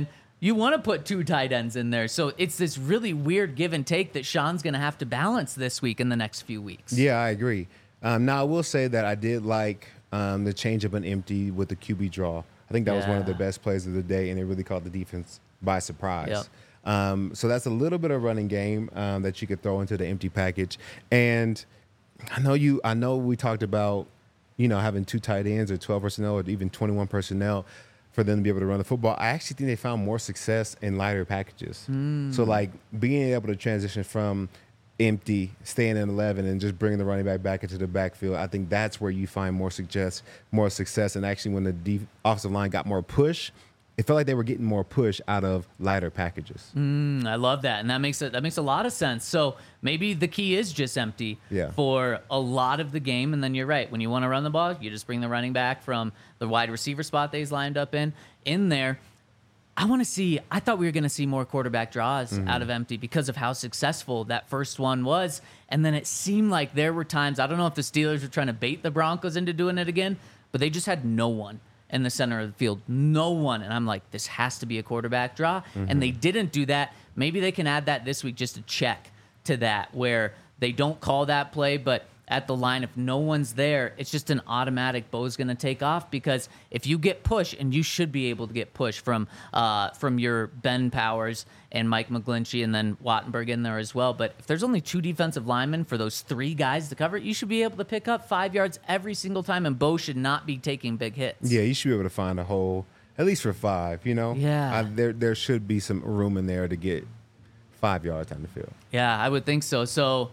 B: you want to put two tight ends in there. So it's this really weird give and take that Sean's going to have to balance this week in the next few weeks.
C: Yeah, I agree. Um, now, I will say that I did like um, the change of an empty with the Q B draw. I think that yeah. was one of the best plays of the day, and it really caught the defense by surprise.
B: Yep.
C: Um, so that's a little bit of running game um, that you could throw into the empty package. And I know you. I know we talked about, you know, having two tight ends or twelve personnel or even twenty-one personnel for them to be able to run the football. I actually think they found more success in lighter packages. Mm. So like being able to transition from empty, staying in eleven, and just bringing the running back back into the backfield, I think that's where you find more success, more success. And actually, when the de- offensive line got more push, it felt like they were getting more push out of lighter packages.
B: Mm, I love that, and that makes it that makes a lot of sense. So maybe the key is just empty
C: yeah.
B: for a lot of the game, and then you're right. When you want to run the ball, you just bring the running back from the wide receiver spot that he's lined up in in there. I want to see, I thought we were going to see more quarterback draws mm-hmm. out of empty because of how successful that first one was. And then it seemed like there were times, I don't know if the Steelers were trying to bait the Broncos into doing it again, but they just had no one in the center of the field. No one. And I'm like, this has to be a quarterback draw. Mm-hmm. And they didn't do that. Maybe they can add that this week just to check to that, where they don't call that play, but at the line, if no one's there, it's just an automatic Bo's going to take off, because if you get push, and you should be able to get push from uh, from your Ben Powers and Mike McGlinchey and then Wattenberg in there as well. But if there's only two defensive linemen for those three guys to cover it, you should be able to pick up five yards every single time, and Bo should not be taking big hits.
C: Yeah, you should be able to find a hole, at least for five, you know?
B: Yeah.
C: I, there, there should be some room in there to get five yards on the field.
B: Yeah, I would think so. So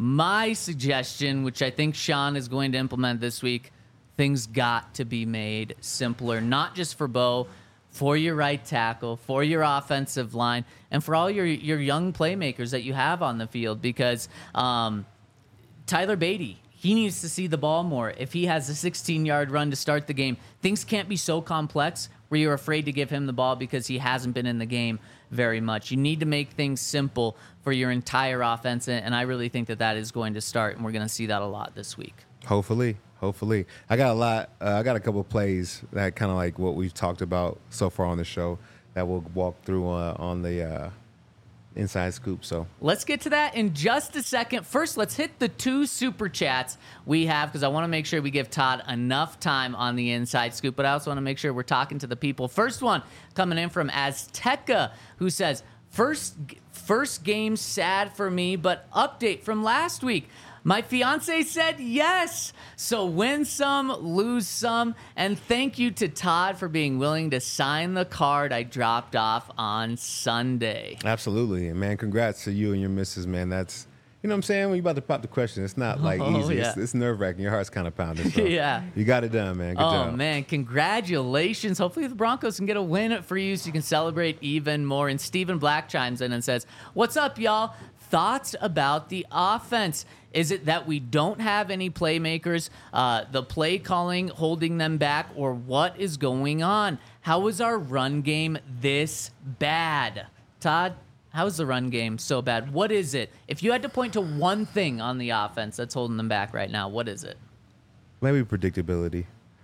B: my suggestion, which I think Sean is going to implement this week, things got to be made simpler, not just for Bo, for your right tackle, for your offensive line, and for all your, your young playmakers that you have on the field, because um, Tyler Beatty, he needs to see the ball more. If he has a sixteen-yard run to start the game, things can't be so complex where you're afraid to give him the ball because he hasn't been in the game very much. You need to make things simple for your entire offense, and I really think that that is going to start, and we're going to see that a lot this week.
C: Hopefully, hopefully. I got a lot. Uh, I got a couple of plays that kind of like what we've talked about so far on the show that we'll walk through uh, on the uh, Inside Scoop. So
B: let's get to that in just a second. First, let's hit the two super chats we have, because I want to make sure we give Todd enough time on the Inside Scoop, but I also want to make sure we're talking to the people. First one coming in from Azteca, who says, First first game sad for me, but update from last week. My fiance said yes. So win some, lose some. And thank you to Todd for being willing to sign the card I dropped off on Sunday.
C: Absolutely. And man, congrats to you and your missus, man. That's, you know what I'm saying? When you're about to pop the question, it's not like
B: oh,
C: easy.
B: Yeah.
C: It's, it's nerve-wracking. Your heart's kind of pounding. So
B: yeah.
C: You got it done, man. Good
B: oh,
C: job.
B: Oh, man. Congratulations. Hopefully the Broncos can get a win for you so you can celebrate even more. And Stephen Black chimes in and says, what's up, y'all? Thoughts about the offense? Is it that we don't have any playmakers, uh, the play calling holding them back, or what is going on? How is our run game this bad? Todd, how is the run game so bad? What is it? If you had to point to one thing on the offense that's holding them back right now, what is it?
C: Maybe predictability.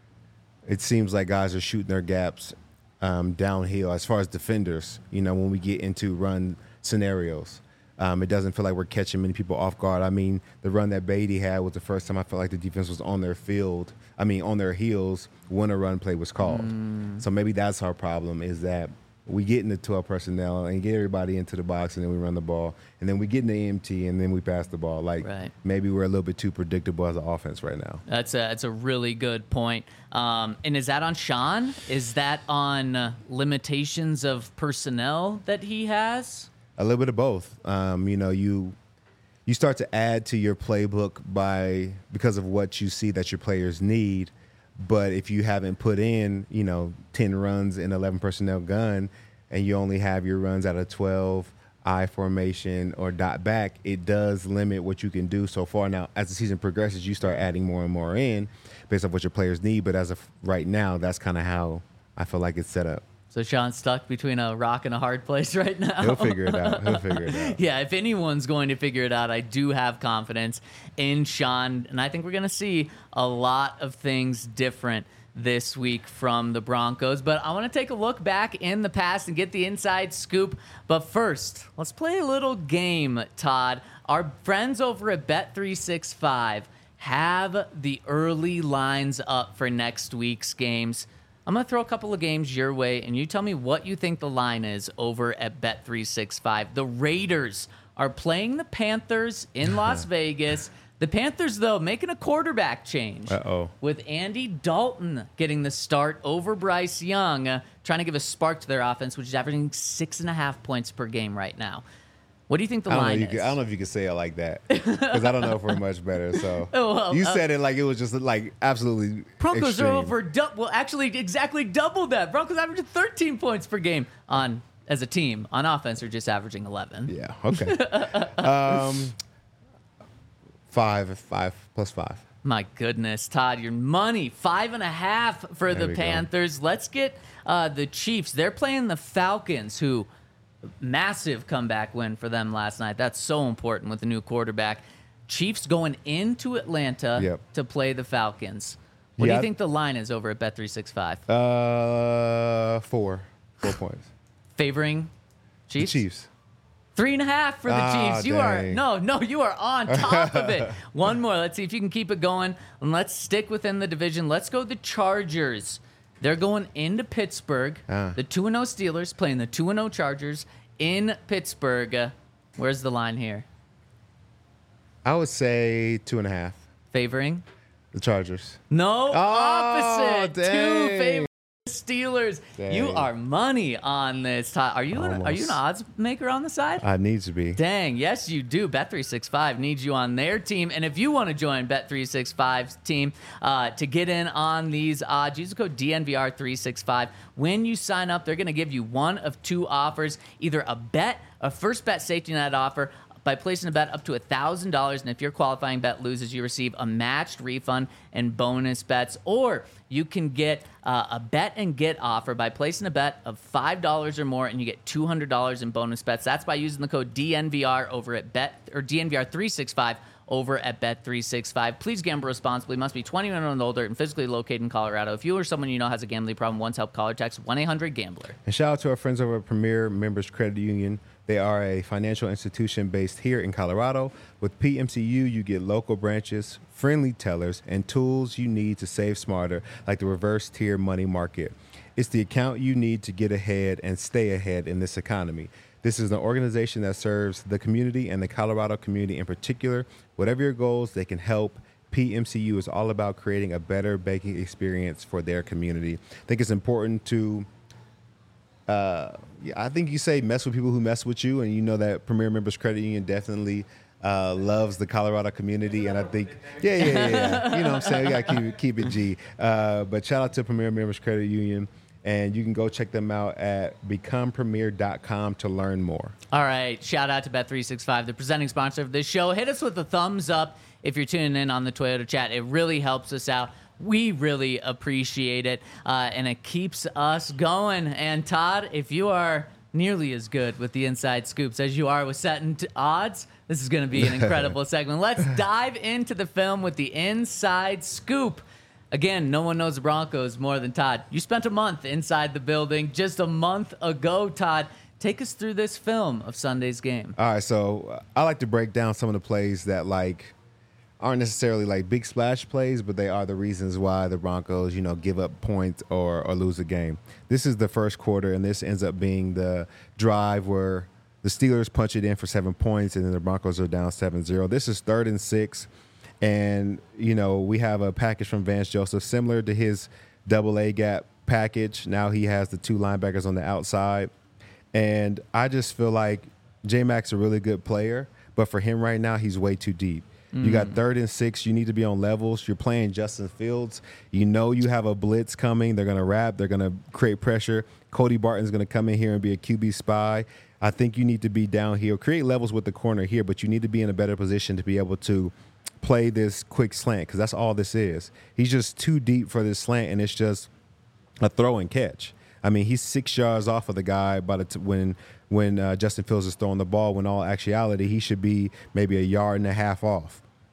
C: It seems like guys are shooting their gaps um, downhill as far as defenders, you know, when we get into run scenarios. Um, it doesn't feel like we're catching many people off guard. I mean, the run that Beatty had was the first time I felt like the defense was on their field. I mean, on their heels when a run play was called. Mm. So maybe that's our problem, is that we get into twelve personnel and get everybody into the box, and then we run the ball. And then we get in the empty, and then we pass the ball. Like,
B: right.
C: Maybe we're a little bit too predictable as an offense right now.
B: That's a, that's a really good point. Um, and is that on Sean? Is that on uh, limitations of personnel that he has?
C: A little bit of both. Um, you know, you you start to add to your playbook by because of what you see that your players need. But if you haven't put in, you know, ten runs in eleven personnel gun, and you only have your runs out of twelve I formation or dot back, it does limit what you can do so far. Now, as the season progresses, you start adding more and more in based on what your players need. But as of right now, that's kind of how I feel like it's set up.
B: So Sean's stuck between a rock and a hard place right now.
C: He'll figure it out. He'll figure it out.
B: Yeah, if anyone's going to figure it out, I do have confidence in Sean. And I think we're going to see a lot of things different this week from the Broncos. But I want to take a look back in the past and get the inside scoop. But first, let's play a little game, Todd. Our friends over at Bet three sixty-five have the early lines up for next week's games. I'm going to throw a couple of games your way, and you tell me what you think the line is over at Bet three sixty-five. The Raiders are playing the Panthers in Las Vegas. The Panthers, though, making a quarterback change.
C: Uh-oh.
B: With Andy Dalton getting the start over Bryce Young, uh, trying to give a spark to their offense, which is averaging six and a half points per game right now. What do you think the
C: I don't
B: line
C: know, you
B: is?
C: could, I don't know if you could say it like that because I don't know if we're much better. So
B: Oh, well,
C: you
B: uh,
C: said it like it was just like absolutely
B: Broncos
C: extreme.
B: are over, du- well, actually exactly double that. Broncos averaging thirteen points per game on as a team. On offense, they're just averaging eleven.
C: Yeah. Okay. um, five, five plus five.
B: My goodness, Todd, your money, five and a half for
C: There
B: the
C: we go.
B: Panthers. Let's get uh, the Chiefs. They're playing the Falcons, who massive comeback win for them last night. That's so important with the new quarterback. Chiefs going into Atlanta
C: Yep.
B: to play the Falcons. What do
C: Yeah,
B: you
C: I-
B: think the line is over at Bet three sixty-five?
C: Uh, four, four points.
B: Favoring
C: The
B: Chiefs?
C: Chiefs.
B: Three and a half for the
C: Ah,
B: Chiefs. You are
C: dang.
B: no, no, you are on top of it. One more. Let's see if you can keep it going. And let's stick within the division. Let's go the Chargers. They're going into Pittsburgh.
C: Ah.
B: The two and oh Steelers playing the two and oh Chargers in Pittsburgh. Uh, where's the line here?
C: I would say two and a half.
B: Favoring?
C: The Chargers.
B: No, opposite. Two
C: dang.
B: favorite Steelers. You
C: Dang.
B: are money on this. Todd. Are you an, are you an
C: Almost.
B: odds maker on the side?
C: I need to be.
B: Dang, yes, you do. Bet three sixty-five needs you on their team. And if you want to join Bet three sixty-five's team uh, to get in on these odds, use the code D N V R three sixty-five. When you sign up, they're going to give you one of two offers, either a bet, a first bet safety net offer, by placing a bet up to one thousand dollars. And if your qualifying bet loses, you receive a matched refund and bonus bets. Or you can get uh, a bet and get offer by placing a bet of five dollars or more, and you get two hundred dollars in bonus bets. That's by using the code D N V R over at Bet or D N V R three sixty-five over at Bet three sixty-five. Please gamble responsibly. Must be twenty-one and older and physically located in Colorado. If you or someone you know has a gambling problem, once help caller text one eight hundred gambler.
C: And shout out to our friends over at Premier Members Credit Union. They are a financial institution based here in Colorado. With P M C U, you get local branches, friendly tellers, and tools you need to save smarter, like the reverse tier money market. It's the account you need to get ahead and stay ahead in this economy. This is an organization that serves the community and the Colorado community in particular. Whatever your goals, they can help. P M C U is all about creating a better banking experience for their community. I think it's important to Uh, yeah, I think you say mess with people who mess with you, and you know that Premier Members Credit Union definitely uh, loves the Colorado community, and I think, yeah, yeah, yeah, yeah. You know what I'm saying? We got to keep it, keep it G. Uh, but shout out to Premier Members Credit Union, and you can go check them out at become premier dot com to learn more.
B: All right. Shout out to Bet three sixty-five, the presenting sponsor of this show. Hit us with a thumbs up if you're tuning in on the Toyota chat. It really helps us out. We really appreciate it, uh, and it keeps us going. And Todd, if you are nearly as good with the inside scoops as you are with setting t- odds, this is going to be an incredible segment. Let's dive into the film with the inside scoop. Again, no one knows the Broncos more than Todd. You spent a month inside the building just a month ago, Todd. Take us through this film of Sunday's game.
C: All right, so uh, I like to break down some of the plays that like aren't necessarily like big splash plays, but they are the reasons why the Broncos, you know, give up points or, or lose a game. This is the first quarter, and this ends up being the drive where the Steelers punch it in for seven points, and then the Broncos are down seven zero. This is third and six, and, you know, we have a package from Vance Joseph similar to his double A gap package. Now he has the two linebackers on the outside, and I just feel like J-Mac's a really good player, but for him right now, he's way too deep. You got third and six. You need to be on levels. You're playing Justin Fields. You know you have a blitz coming. They're going to wrap. They're going to create pressure. Cody Barton's going to come in here and be a Q B spy. I think you need to be down here. Create levels with the corner here, but you need to be in a better position to be able to play this quick slant because that's all this is. He's just too deep for this slant, and it's just a throw and catch. I mean, he's six yards off of the guy by the t- when when uh, Justin Fields is throwing the ball, when all actuality, he should be maybe a yard and a half off.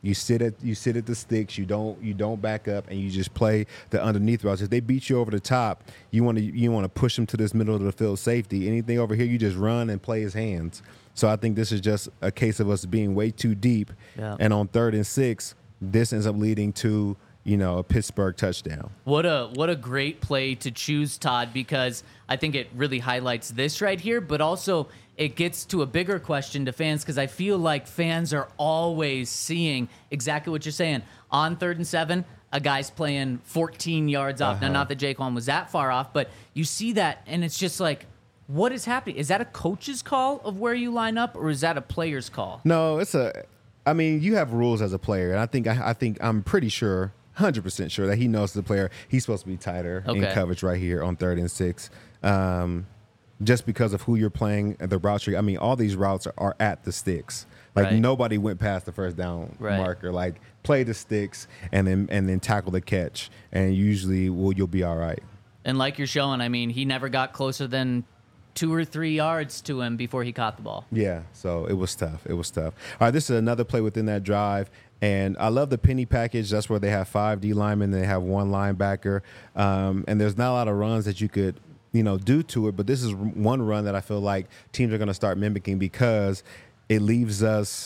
C: You sit at you sit at the sticks. You don't you don't back up, and you just play the underneath routes. If they beat you over the top, you want to you want to push them to this middle of the field safety. Anything over here, you just run and play his hands. So I think this is just a case of us being way too deep.
B: Yeah.
C: And on third and six, this ends up leading to, you know, a Pittsburgh touchdown.
B: What a what a great play to choose, Todd, because I think it really highlights this right here, but also it gets to a bigger question to fans, because I feel like fans are always seeing exactly what you're saying. On third and seven, a guy's playing fourteen yards off.
C: Uh-huh.
B: Now, not that Jaquan was that far off, but you see that, and it's just like, what is happening? Is that a coach's call of where you line up, or is that a player's call?
C: No, it's a. I mean, you have rules as a player, and I think I, I think I'm pretty sure, one hundred percent sure that he knows the player. He's supposed to be tighter in
B: Okay.
C: coverage right here on third and six, um, just because of who you're playing and the routes. You're, I mean, all these routes are, are at the sticks. Like
B: Right.
C: nobody went past the first down
B: Right.
C: marker. Like play the sticks and then and then tackle the catch, and usually, well, you'll be all right.
B: And like you're showing, I mean, he never got closer than two or three yards to him before he caught the ball.
C: Yeah, so it was tough. It was tough. All right, this is another play within that drive, and I love the penny package. That's where they have five D linemen, they have one linebacker, um, and there's not a lot of runs that you could, you know, do to it. But this is one run that I feel like teams are going to start mimicking because it leaves us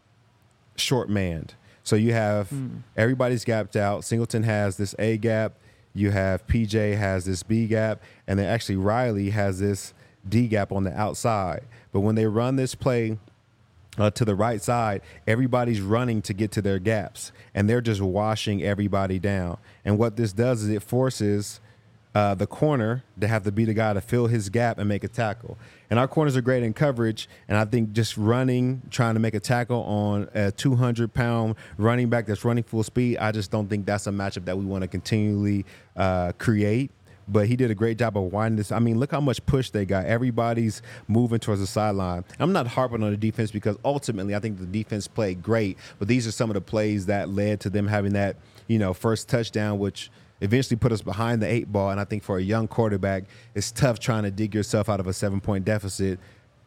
C: short manned. So you have mm. everybody's gapped out. Singleton has this A gap. You have P J has this B gap, and then actually Riley has this D gap on the outside. But when they run this play uh, to the right side, everybody's running to get to their gaps, and they're just washing everybody down. And what this does is it forces uh, the corner to have to be the guy to fill his gap and make a tackle. And our corners are great in coverage, and I think just running, trying to make a tackle on a two hundred pound running back that's running full speed, I just don't think that's a matchup that we want to continually uh, create. But he did a great job of winding this. I mean, look how much push they got. Everybody's moving towards the sideline. I'm not harping on the defense because ultimately I think the defense played great. But these are some of the plays that led to them having that, you know, first touchdown, which eventually put us behind the eight ball. And I think for a young quarterback, it's tough trying to dig yourself out of a seven-point deficit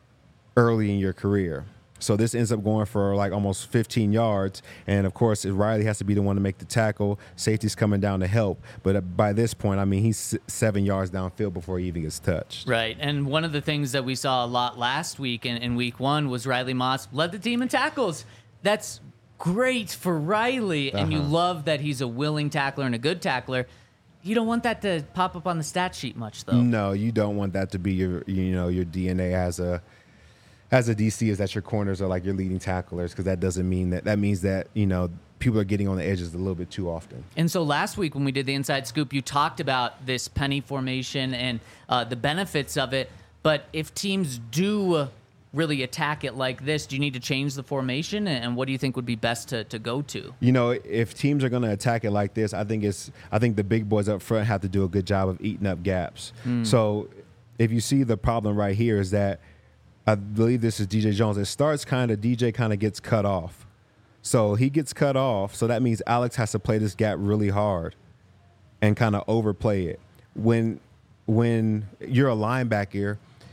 C: early in your career. So this ends up going for like almost fifteen yards. And, of course, Riley has to be the one to make the tackle. Safety's coming down to help. But by this point, I mean, he's seven yards downfield before he even gets touched.
B: Right. And one of the things that we saw a lot last week in, in week one was Riley Moss led the team in tackles. That's great for Riley. And
C: Uh-huh.
B: you love that he's a willing tackler and a good tackler. You don't want that to pop up on the stat sheet much, though.
C: No, you don't want that to be your, you know, your D N A as a – as a D C, is that your corners are like your leading tacklers, because that doesn't mean that. That means that, you know, people are getting on the edges a little bit too often.
B: And so last week when we did the Inside Scoop, you talked about this penny formation and uh, the benefits of it. But if teams do really attack it like this, do you need to change the formation? And what do you think would be best to, to go to?
C: You know, if teams are going to attack it like this, I think it's. I think the big boys up front have to do a good job of eating up gaps. Mm. So if you see the problem right here is that, I believe this is D J Jones. It starts kind of, D J kind of gets cut off. So he gets cut off. So that means Alex has to play this gap really hard and kind of overplay it. When when you're a linebacker,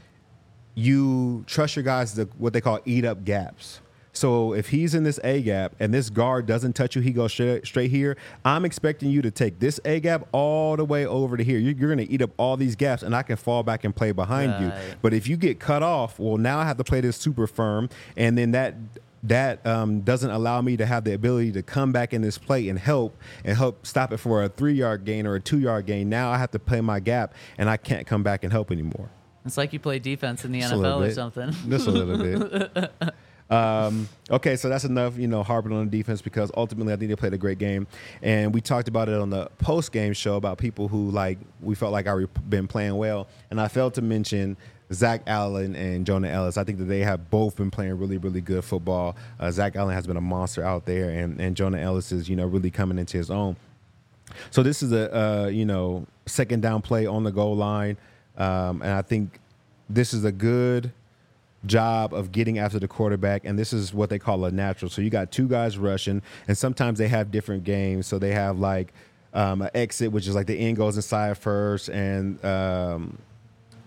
C: you trust your guys to what they call eat up gaps. So if he's in this A gap and this guard doesn't touch you, he goes straight, straight here. I'm expecting you to take this A gap all the way over to here. You're, you're going to eat up all these gaps, and I can fall back and play behind
B: right.
C: you. But if you get cut off, well, now I have to play this super firm, and then that that um, doesn't allow me to have the ability to come back in this play and help and help stop it for a three-yard gain or a two-yard gain. Now I have to play my gap, and I can't come back and help anymore.
B: It's like you play defense in the
C: Just
B: N F L or
C: bit.
B: something.
C: Just a little bit. Um, okay, so that's enough, you know, harping on the defense, because ultimately I think they played a great game. And we talked about it on the post-game show about people who, like, we felt like are been playing well. And I failed to mention Zach Allen and Jonah Ellis. I think that they have both been playing really, really good football. Uh, Zach Allen has been a monster out there, and, and Jonah Ellis is, you know, really coming into his own. So this is a, uh, you know, second down play on the goal line. Um, and I think this is a good job of getting after the quarterback, and this is what they call a natural. So you got two guys rushing, and sometimes they have different games. So they have like um, an exit, which is like the end goes inside first, and um,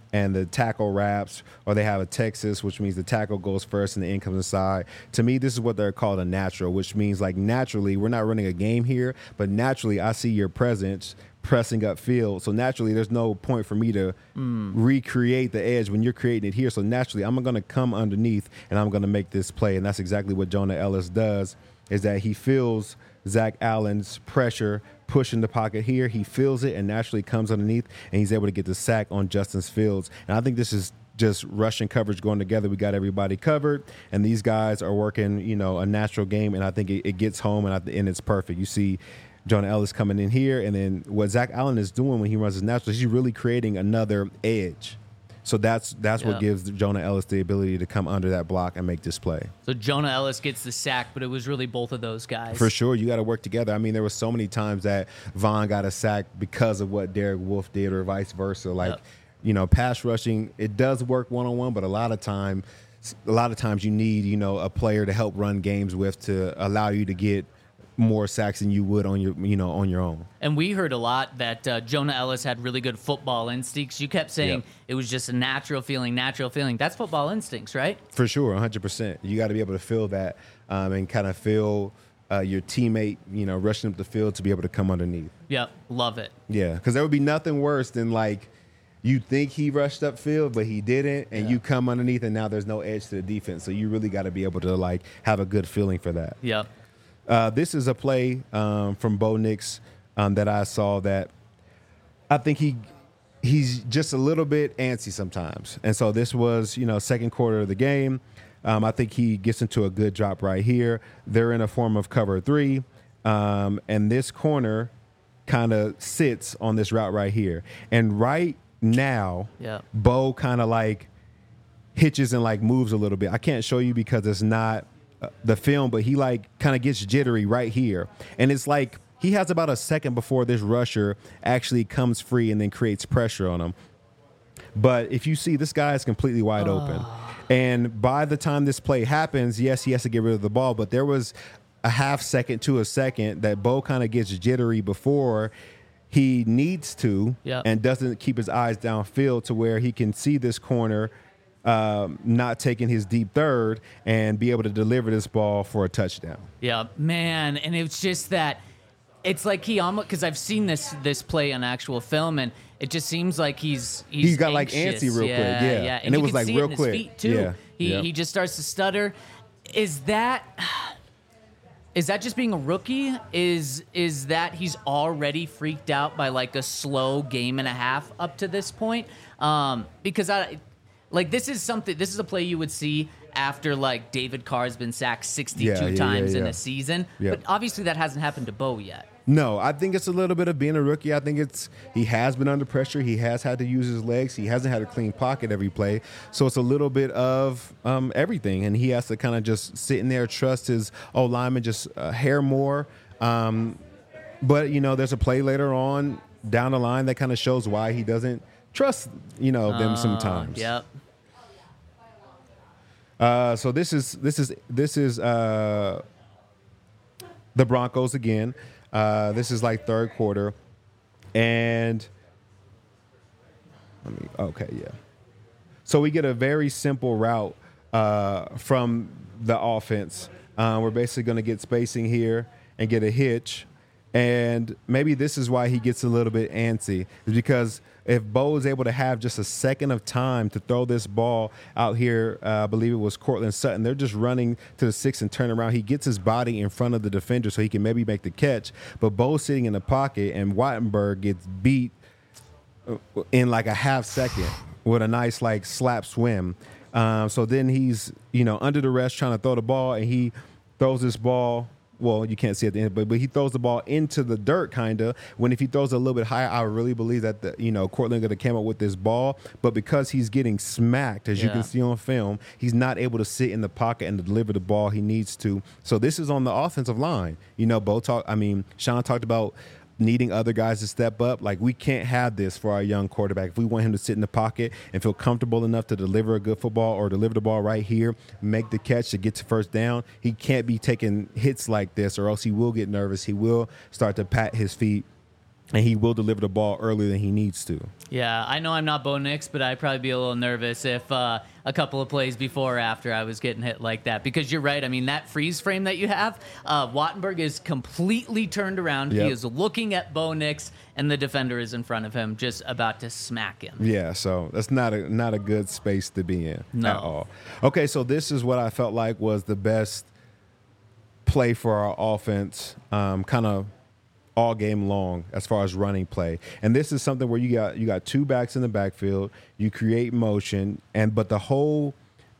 C: and the tackle wraps, or they have a Texas, which means the tackle goes first and the end comes inside. To me, this is what they're called a natural, which means like naturally, we're not running a game here, but naturally I see your presence pressing upfield. So naturally, there's no point for me to mm. recreate the edge when you're creating it here. So naturally, I'm going to come underneath and I'm going to make this play. And that's exactly what Jonah Ellis does, is that he feels Zach Allen's pressure pushing the pocket here. He feels it and naturally comes underneath, and he's able to get the sack on Justin Fields. And I think this is just rushing coverage going together. We got everybody covered, and these guys are working, you know, a natural game, and I think it, it gets home, and, I, and it's perfect. You see Jonah Ellis coming in here, and then what Zach Allen is doing when he runs his natural, he's really creating another edge. So that's that's yeah. what gives Jonah Ellis the ability to come under that block and make this play.
B: So Jonah Ellis gets the sack, but it was really both of those guys.
C: For sure. You got to work together. I mean, there were so many times that Von got a sack because of what Derek Wolfe did or vice versa. Like, yep. you know, pass rushing, it does work one-on-one, but a lot of time, a lot of times you need, you know, a player to help run games with to allow you to get more sacks than you would on your, you know, on your own.
B: And we heard a lot that uh, Jonah Ellis had really good football instincts. You kept saying yep. it was just a natural feeling, natural feeling. That's football instincts, right?
C: For sure, one hundred percent. You got to be able to feel that um, and kind of feel uh, your teammate, you know, rushing up the field to be able to come underneath.
B: Yep, love it.
C: Yeah, because there would be nothing worse than like you think he rushed upfield, but he didn't, and yeah. you come underneath, and now there's no edge to the defense. So you really got to be able to like have a good feeling for that.
B: Yep.
C: Uh, this is a play um, from Bo Nix um, that I saw that I think he he's just a little bit antsy sometimes. And so this was, you know, second quarter of the game. Um, I think he gets into a good drop right here. They're in a form of cover three, um, and this corner kind of sits on this route right here. And right now,
B: yeah.
C: Bo kind of like hitches and like moves a little bit. I can't show you because it's not – Uh, the film, but he like kind of gets jittery right here, and it's like he has about a second before this rusher actually comes free and then creates pressure on him. But if you see, this guy is completely wide oh. open, and by the time this play happens, yes, he has to get rid of the ball, but there was a half second to a second that Bo kind of gets jittery before he needs to
B: yep.
C: and doesn't keep his eyes downfield to where he can see this corner Um, not taking his deep third and be able to deliver this ball for a touchdown.
B: Yeah, man, and it's just that it's like he almost, because I've seen this this play on actual film, and it just seems like he's he's,
C: he's got
B: anxious.
C: like antsy real
B: yeah,
C: quick, yeah,
B: yeah,
C: and, and it was like
B: see
C: real
B: it in
C: quick,
B: his feet too.
C: yeah,
B: he
C: yep.
B: he just starts to stutter. Is that? Is that just being a rookie? Is is that he's already freaked out by like a slow game and a half up to this point? Um, because I. Like, this is something, this is a play you would see after, like, David Carr has been sacked sixty-two
C: yeah, yeah,
B: times
C: yeah, yeah.
B: in a season.
C: Yep.
B: But obviously that hasn't happened to Bo yet.
C: No, I think it's a little bit of being a rookie. I think it's he has been under pressure. He has had to use his legs. He hasn't had a clean pocket every play. So it's a little bit of um, everything. And he has to kind of just sit in there, trust his old lineman, just a hair more. Um, but, you know, there's a play later on down the line that kind of shows why he doesn't trust, you know, them
B: uh,
C: sometimes.
B: Yep.
C: Uh, so this is this is this is uh, the Broncos again. Uh, this is like third quarter, and let me okay yeah. So we get a very simple route uh, from the offense. Uh, we're basically going to get spacing here and get a hitch, and maybe this is why he gets a little bit antsy, is because if Bo is able to have just a second of time to throw this ball out here, uh, I believe it was Cortland Sutton, they're just running to the six and turn around. He gets his body in front of the defender so he can maybe make the catch. But Bo's sitting in the pocket, and Wattenberg gets beat in like a half second with a nice like slap swim. Um, so then he's, you know, under the rest trying to throw the ball, and he throws this ball. Well, you can't see at the end, but, but he throws the ball into the dirt, kind of. When if he throws a little bit higher, I really believe that, the, you know, Cortland could have came up with this ball. But because he's getting smacked, as yeah. you can see on film, he's not able to sit in the pocket and deliver the ball he needs to. So this is on the offensive line. You know, Bo talk. I mean, Sean talked about needing other guys to step up. Like, we can't have this for our young quarterback. If we want him to sit in the pocket and feel comfortable enough to deliver a good football or deliver the ball right here, make the catch to get to first down, he can't be taking hits like this, or else he will get nervous. He will start to pat his feet and he will deliver the ball earlier than he needs to.
B: Yeah, I know I'm not Bo Nix, but I'd probably be a little nervous if uh, a couple of plays before or after I was getting hit like that. Because you're right. I mean, that freeze frame that you have, uh, Wattenberg is completely turned around.
C: Yep.
B: He is looking at Bo Nix, and the defender is in front of him, just about to smack him.
C: Yeah, so that's not a not a good space to be in
B: No.
C: at all. Okay, so this is what I felt like was the best play for our offense, um, kind of all game long as far as running play. And this is something where you got you got two backs in the backfield, you create motion, and but the whole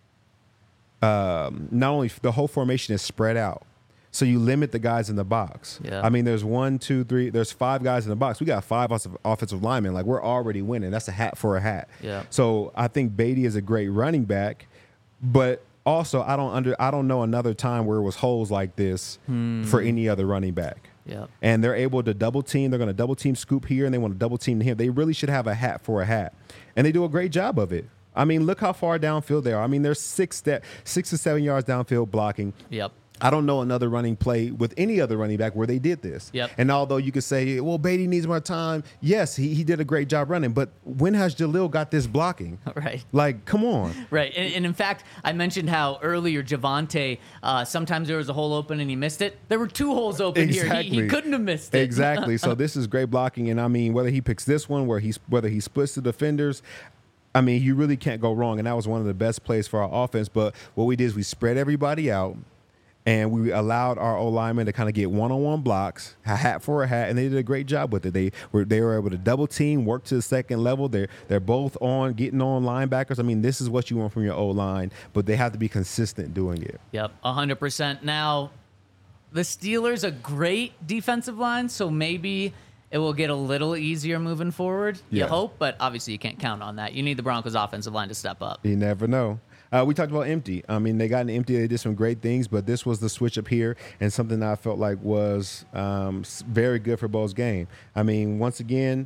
C: um, not only the whole formation is spread out. So you limit the guys in the box.
B: Yeah.
C: I mean, there's one, two, three, there's five guys in the box. We got five offensive, offensive linemen. Like, we're already winning. That's a hat for a hat.
B: Yeah.
C: So I think Beatty is a great running back, but also I don't under I don't know another time where it was holes like this
B: Hmm.
C: for any other running back.
B: Yeah.
C: And they're able to double team. They're going to double team Scoop here, and they want to double team him. They really should have a hat for a hat, and they do a great job of it. I mean, look how far downfield they are. I mean, they're six step, six to seven yards downfield blocking.
B: Yep.
C: I don't know another running play with any other running back where they did this.
B: Yep.
C: And although you could say, well, Beatty needs more time, yes, he, he did a great job running. But when has Jalil got this blocking?
B: Right.
C: Like, come on.
B: Right. And, and in fact, I mentioned how earlier Javonte, uh, sometimes there was a hole open and he missed it. There were two holes open here. He, he couldn't have missed it.
C: Exactly. So this is great blocking. And I mean, whether he picks this one, where he's whether he splits the defenders, I mean, you really can't go wrong. And that was one of the best plays for our offense. But what we did is we spread everybody out. And we allowed our O-linemen to kind of get one-on-one blocks, a hat for a hat, and they did a great job with it. They were they were able to double team, work to the second level. They're they're both on getting on linebackers. I mean, this is what you want from your O-line, but they have to be consistent doing it.
B: Yep, one hundred percent. Now, the Steelers a great defensive line, so maybe it will get a little easier moving forward. You
C: Yeah.
B: hope, but obviously you can't count on that. You need the Broncos offensive line to step up.
C: You never know. Uh, we talked about empty. I mean, they got an empty. They did some great things, but this was the switch up here and something that I felt like was um, s- very good for Bo's game. I mean, once again,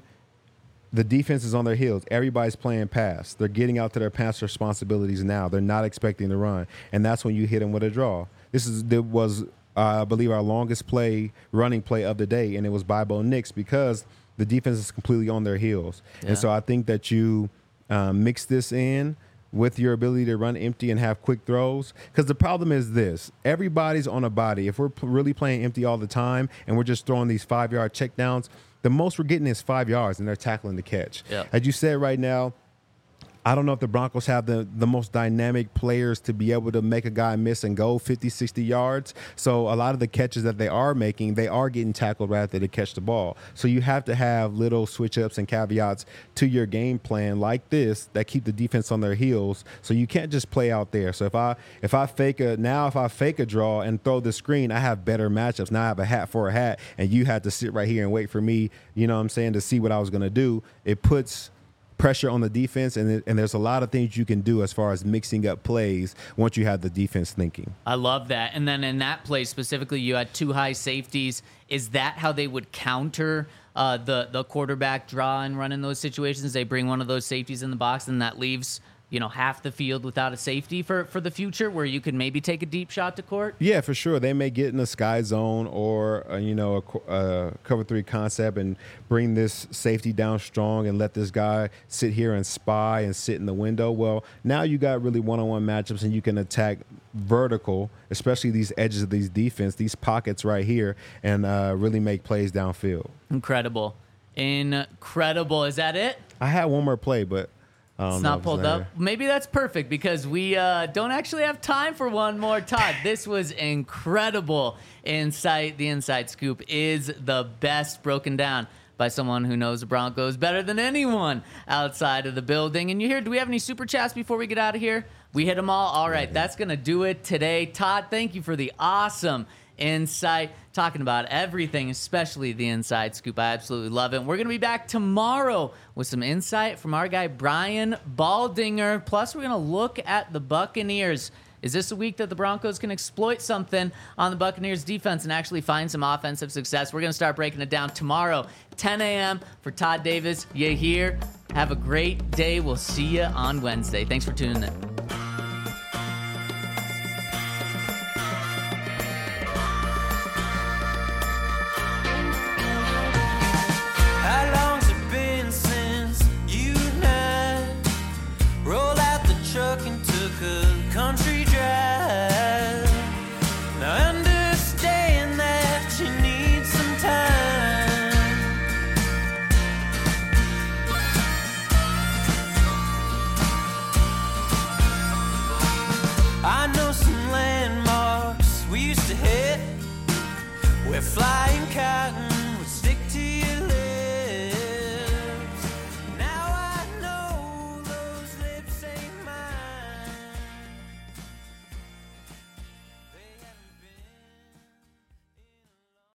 C: the defense is on their heels. Everybody's playing pass. They're getting out to their pass responsibilities now. They're not expecting to run, and that's when you hit them with a draw. This is there was, uh, I believe, our longest play, running play of the day, and it was by Bo Nix because the defense is completely on their heels.
B: Yeah.
C: And so I think that you um, mix this in with your ability to run empty and have quick throws. Because the problem is this. Everybody's on a body. If we're p- really playing empty all the time and we're just throwing these five-yard checkdowns, the most we're getting is five yards, and they're tackling the catch.
B: Yeah.
C: As you said right now, I don't know if the Broncos have the, the most dynamic players to be able to make a guy miss and go fifty, sixty yards. So a lot of the catches that they are making, they are getting tackled right after they catch the ball. So you have to have little switch-ups and caveats to your game plan like this that keep the defense on their heels. So you can't just play out there. So if I if I fake a now if I fake a draw and throw the screen, I have better matchups. Now I have a hat for a hat, and you had to sit right here and wait for me, you know what I'm saying, to see what I was going to do. It puts pressure on the defense, and, it, and there's a lot of things you can do as far as mixing up plays once you have the defense thinking.
B: I love that. And then in that play specifically, you had two high safeties. Is that how they would counter uh, the the quarterback draw and run in those situations? They bring one of those safeties in the box, and that leaves you know half the field without a safety for for the future, where you could maybe take a deep shot to court.
C: Yeah, for sure. They may get in a sky zone or uh, you know a, co- uh, cover three concept and bring this safety down strong and let this guy sit here and spy and sit in the window. Well, now you got really one-on-one matchups, and you can attack vertical, especially these edges of these defense, these pockets right here, and uh, really make plays downfield.
B: Incredible, incredible. Is that it?
C: I had one more play, but I don't
B: It's
C: know
B: not
C: if
B: pulled
C: there.
B: up. Maybe that's perfect because we uh, don't actually have time for one more. Todd, this was incredible insight. The Inside Scoop is the best, broken down by someone who knows the Broncos better than anyone outside of the building. And you hear, do we have any super chats before we get out of here? We hit them all. All right, that's going to do it today. Todd, thank you for the awesome insight, talking about everything, especially the Inside Scoop. I absolutely love it. We're going to be back tomorrow with some insight from our guy Brian Baldinger. Plus, we're going to look at the Buccaneers. Is this a week that the Broncos can exploit something on the Buccaneers defense and actually find some offensive success? We're going to start breaking it down tomorrow, ten a.m. For Todd Davis, you here. Have a great day. We'll see you on Wednesday. Thanks for tuning in.
A: We're flying cotton